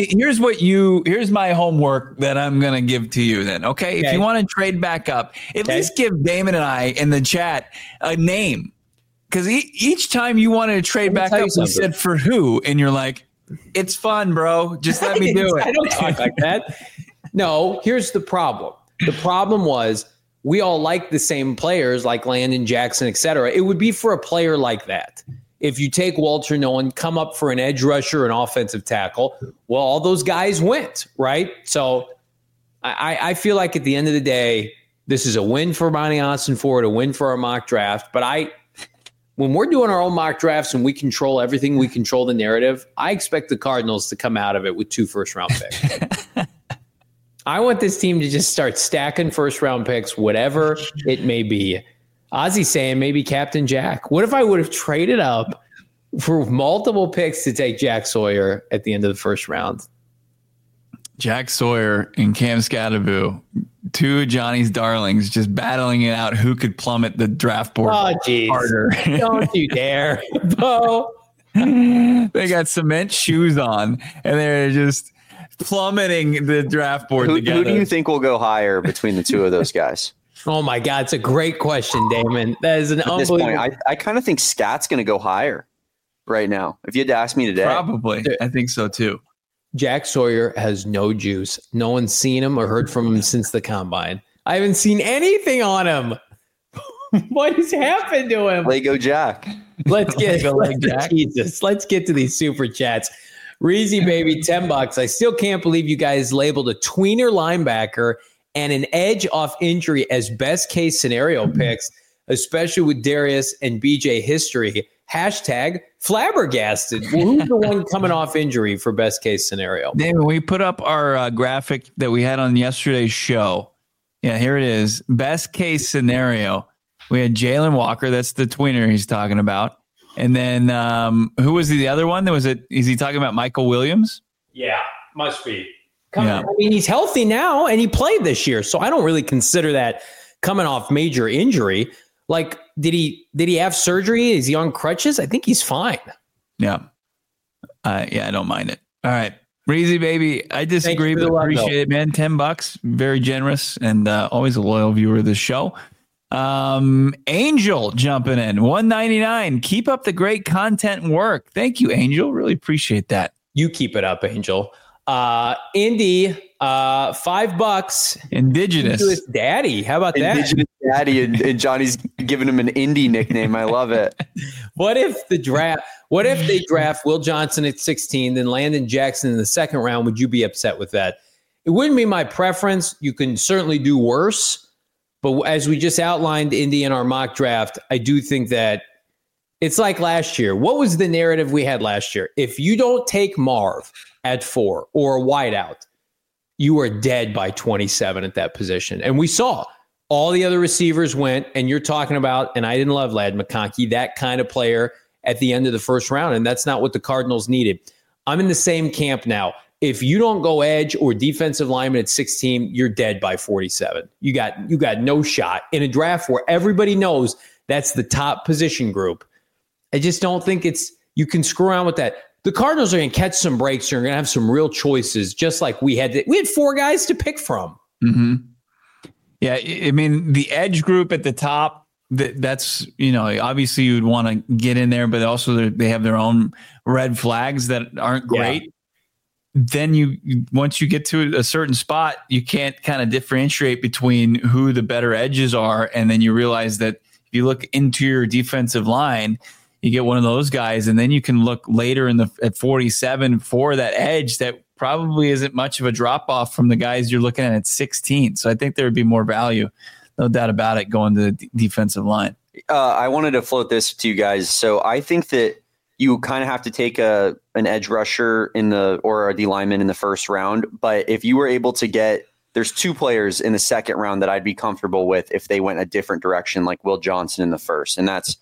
my homework that I'm going to give to you then. Okay. If you want to trade back up, at least give Damon and I in the chat a name. Because each time you wanted to trade back up, we said for who? And you're like, it's fun, bro. Just let me do it. I don't talk like that. No, here's the problem. The problem was we all like the same players like Landon Jackson, et cetera. It would be for a player like that. If you take Walter Nolan, come up for an edge rusher, an offensive tackle, well, all those guys went, right? So I feel like at the end of the day, this is a win for Monty Ossenfort, a win for our mock draft. But when we're doing our own mock drafts and we control everything, we control the narrative, I expect the Cardinals to come out of it with 2 first-round picks. I want this team to just start stacking first-round picks, whatever it may be. Ozzy's saying maybe Captain Jack. What if I would have traded up for multiple picks to take Jack Sawyer at the end of the first round? Jack Sawyer and Cam Scadaboo, 2 of Johnny's darlings, just battling it out who could plummet the draft board harder. Don't you dare, Bo. They got cement shoes on, and they're just plummeting the draft board together. Who do you think will go higher between the 2 of those guys? Oh, my God. It's a great question, Damon. That is an unbelievable. At this point, I kind of think Scat's going to go higher right now. If you had to ask me today. Probably. I think so, too. Jack Sawyer has no juice. No one's seen him or heard from him since the combine. I haven't seen anything on him. What has happened to him? Lego Jack. Let's get to these super chats. Reezy baby, $10. I still can't believe you guys labeled a tweener linebacker and an edge off injury as best case scenario picks, especially with Darius and BJ history. Hashtag flabbergasted. Well, who's the one coming off injury for best case scenario? David, we put up our graphic that we had on yesterday's show. Yeah, here it is. Best case scenario. We had Jalen Walker. That's the tweener he's talking about. And then who was the other one? Is he talking about Michael Williams? Yeah, must be. I mean, he's healthy now and he played this year. So I don't really consider that coming off major injury. Like, did he have surgery? Is he on crutches? I think he's fine. Yeah. I don't mind it. All right. Breezy baby. I disagree, but appreciate it, man. $10. Very generous and always a loyal viewer of the show. Angel jumping in. $1.99. Keep up the great content and work. Thank you, Angel. Really appreciate that. You keep it up, Angel. Indy, $5. Indigenous daddy. How about that? Indigenous daddy, and Johnny's giving him an indie nickname. I love it. What if they draft Will Johnson at 16, then Landon Jackson in the second round? Would you be upset with that? It wouldn't be my preference. You can certainly do worse. But as we just outlined, Indy, in our mock draft, I do think that it's like last year. What was the narrative we had last year? If you don't take Marv at 4 or a wideout, you are dead by 27 at that position. And we saw all the other receivers went, and you're talking about, and I didn't love Ladd McConkey, that kind of player at the end of the first round, and that's not what the Cardinals needed. I'm in the same camp now. If you don't go edge or defensive lineman at 16, you're dead by 47. You got no shot in a draft where everybody knows that's the top position group. I just don't think you can screw around with that. The Cardinals are going to catch some breaks. They're going to have some real choices, just like we had 4 guys to pick from. Mm-hmm. Yeah, I mean, the edge group at the top, that's, obviously you'd want to get in there, but also they have their own red flags that aren't great. Yeah. Then once you get to a certain spot, you can't kind of differentiate between who the better edges are. And then you realize that if you look into your defensive line, you get one of those guys, and then you can look later at 47 for that edge that probably isn't much of a drop off from the guys you're looking at 16. So I think there would be more value, no doubt about it, going to the defensive line. I wanted to float this to you guys. So I think that you kind of have to take an edge rusher or a D lineman in the first round. But if you were able to there's 2 players in the second round that I'd be comfortable with if they went a different direction, like Will Johnson in the first, and that's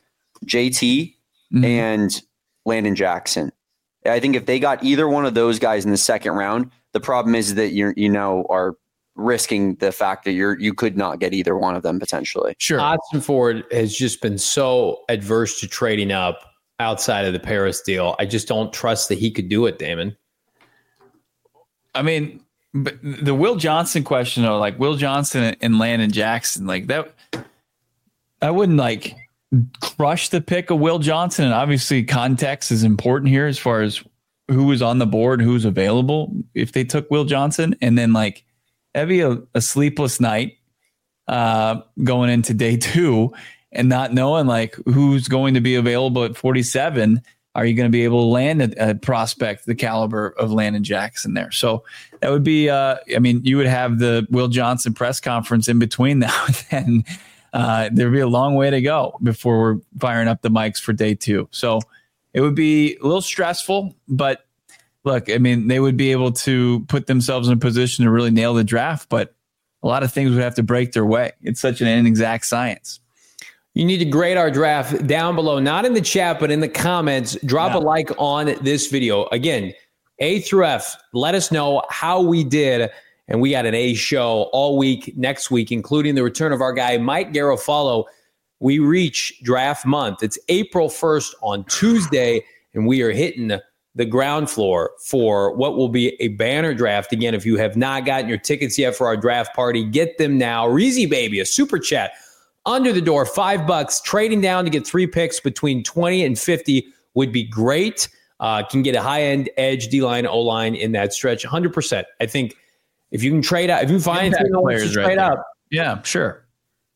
JT and Landon Jackson. I think if they got either one of those guys in the second round, the problem is that you are risking the fact that you could not get either one of them potentially. Sure. Austin Ford has just been so adverse to trading up outside of the Paris deal. I just don't trust that he could do it, Damon. I mean, but the Will Johnson question, though, like Will Johnson and Landon Jackson, like that, I wouldn't crush the pick of Will Johnson. And obviously context is important here as far as who was on the board, who's available if they took Will Johnson. And then that'd be a sleepless night going into day 2. And not knowing who's going to be available at 47, are you going to be able to land a prospect the caliber of Landon Jackson there? So that would be, you would have the Will Johnson press conference in between now and then. There'd be a long way to go before we're firing up the mics for day 2. So it would be a little stressful, but look, they would be able to put themselves in a position to really nail the draft, but a lot of things would have to break their way. It's such an inexact science. You need to grade our draft down below, not in the chat, but in the comments. Drop a like on this video. Again, A through F, let us know how we did. And we got an A show all week next week, including the return of our guy, Mike Garofalo. We reach draft month. It's April 1st on Tuesday, and we are hitting the ground floor for what will be a banner draft. Again, if you have not gotten your tickets yet for our draft party, get them now. Reezy Baby, a super chat. Under the door, $5. Trading down to get 3 picks between 20 and 50 would be great. Can get a high-end edge, D-line, O-line in that stretch. 100%. I think if you can trade out, if you find players trade up. Yeah, sure.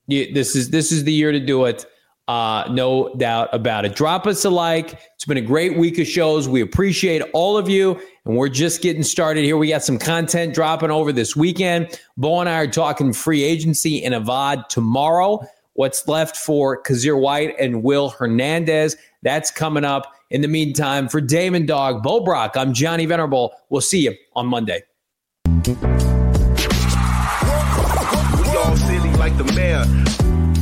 This is the year to do it. No doubt about it. Drop us a like. It's been a great week of shows. We appreciate all of you, and we're just getting started here. We got some content dropping over this weekend. Bo and I are talking free agency in Avad tomorrow. What's left for Kazir White and Will Hernandez. That's coming up. In the meantime, for Damon Dog, Bo Brock, I'm Johnny Venerable. We'll see you on Monday. We all silly like the mayor.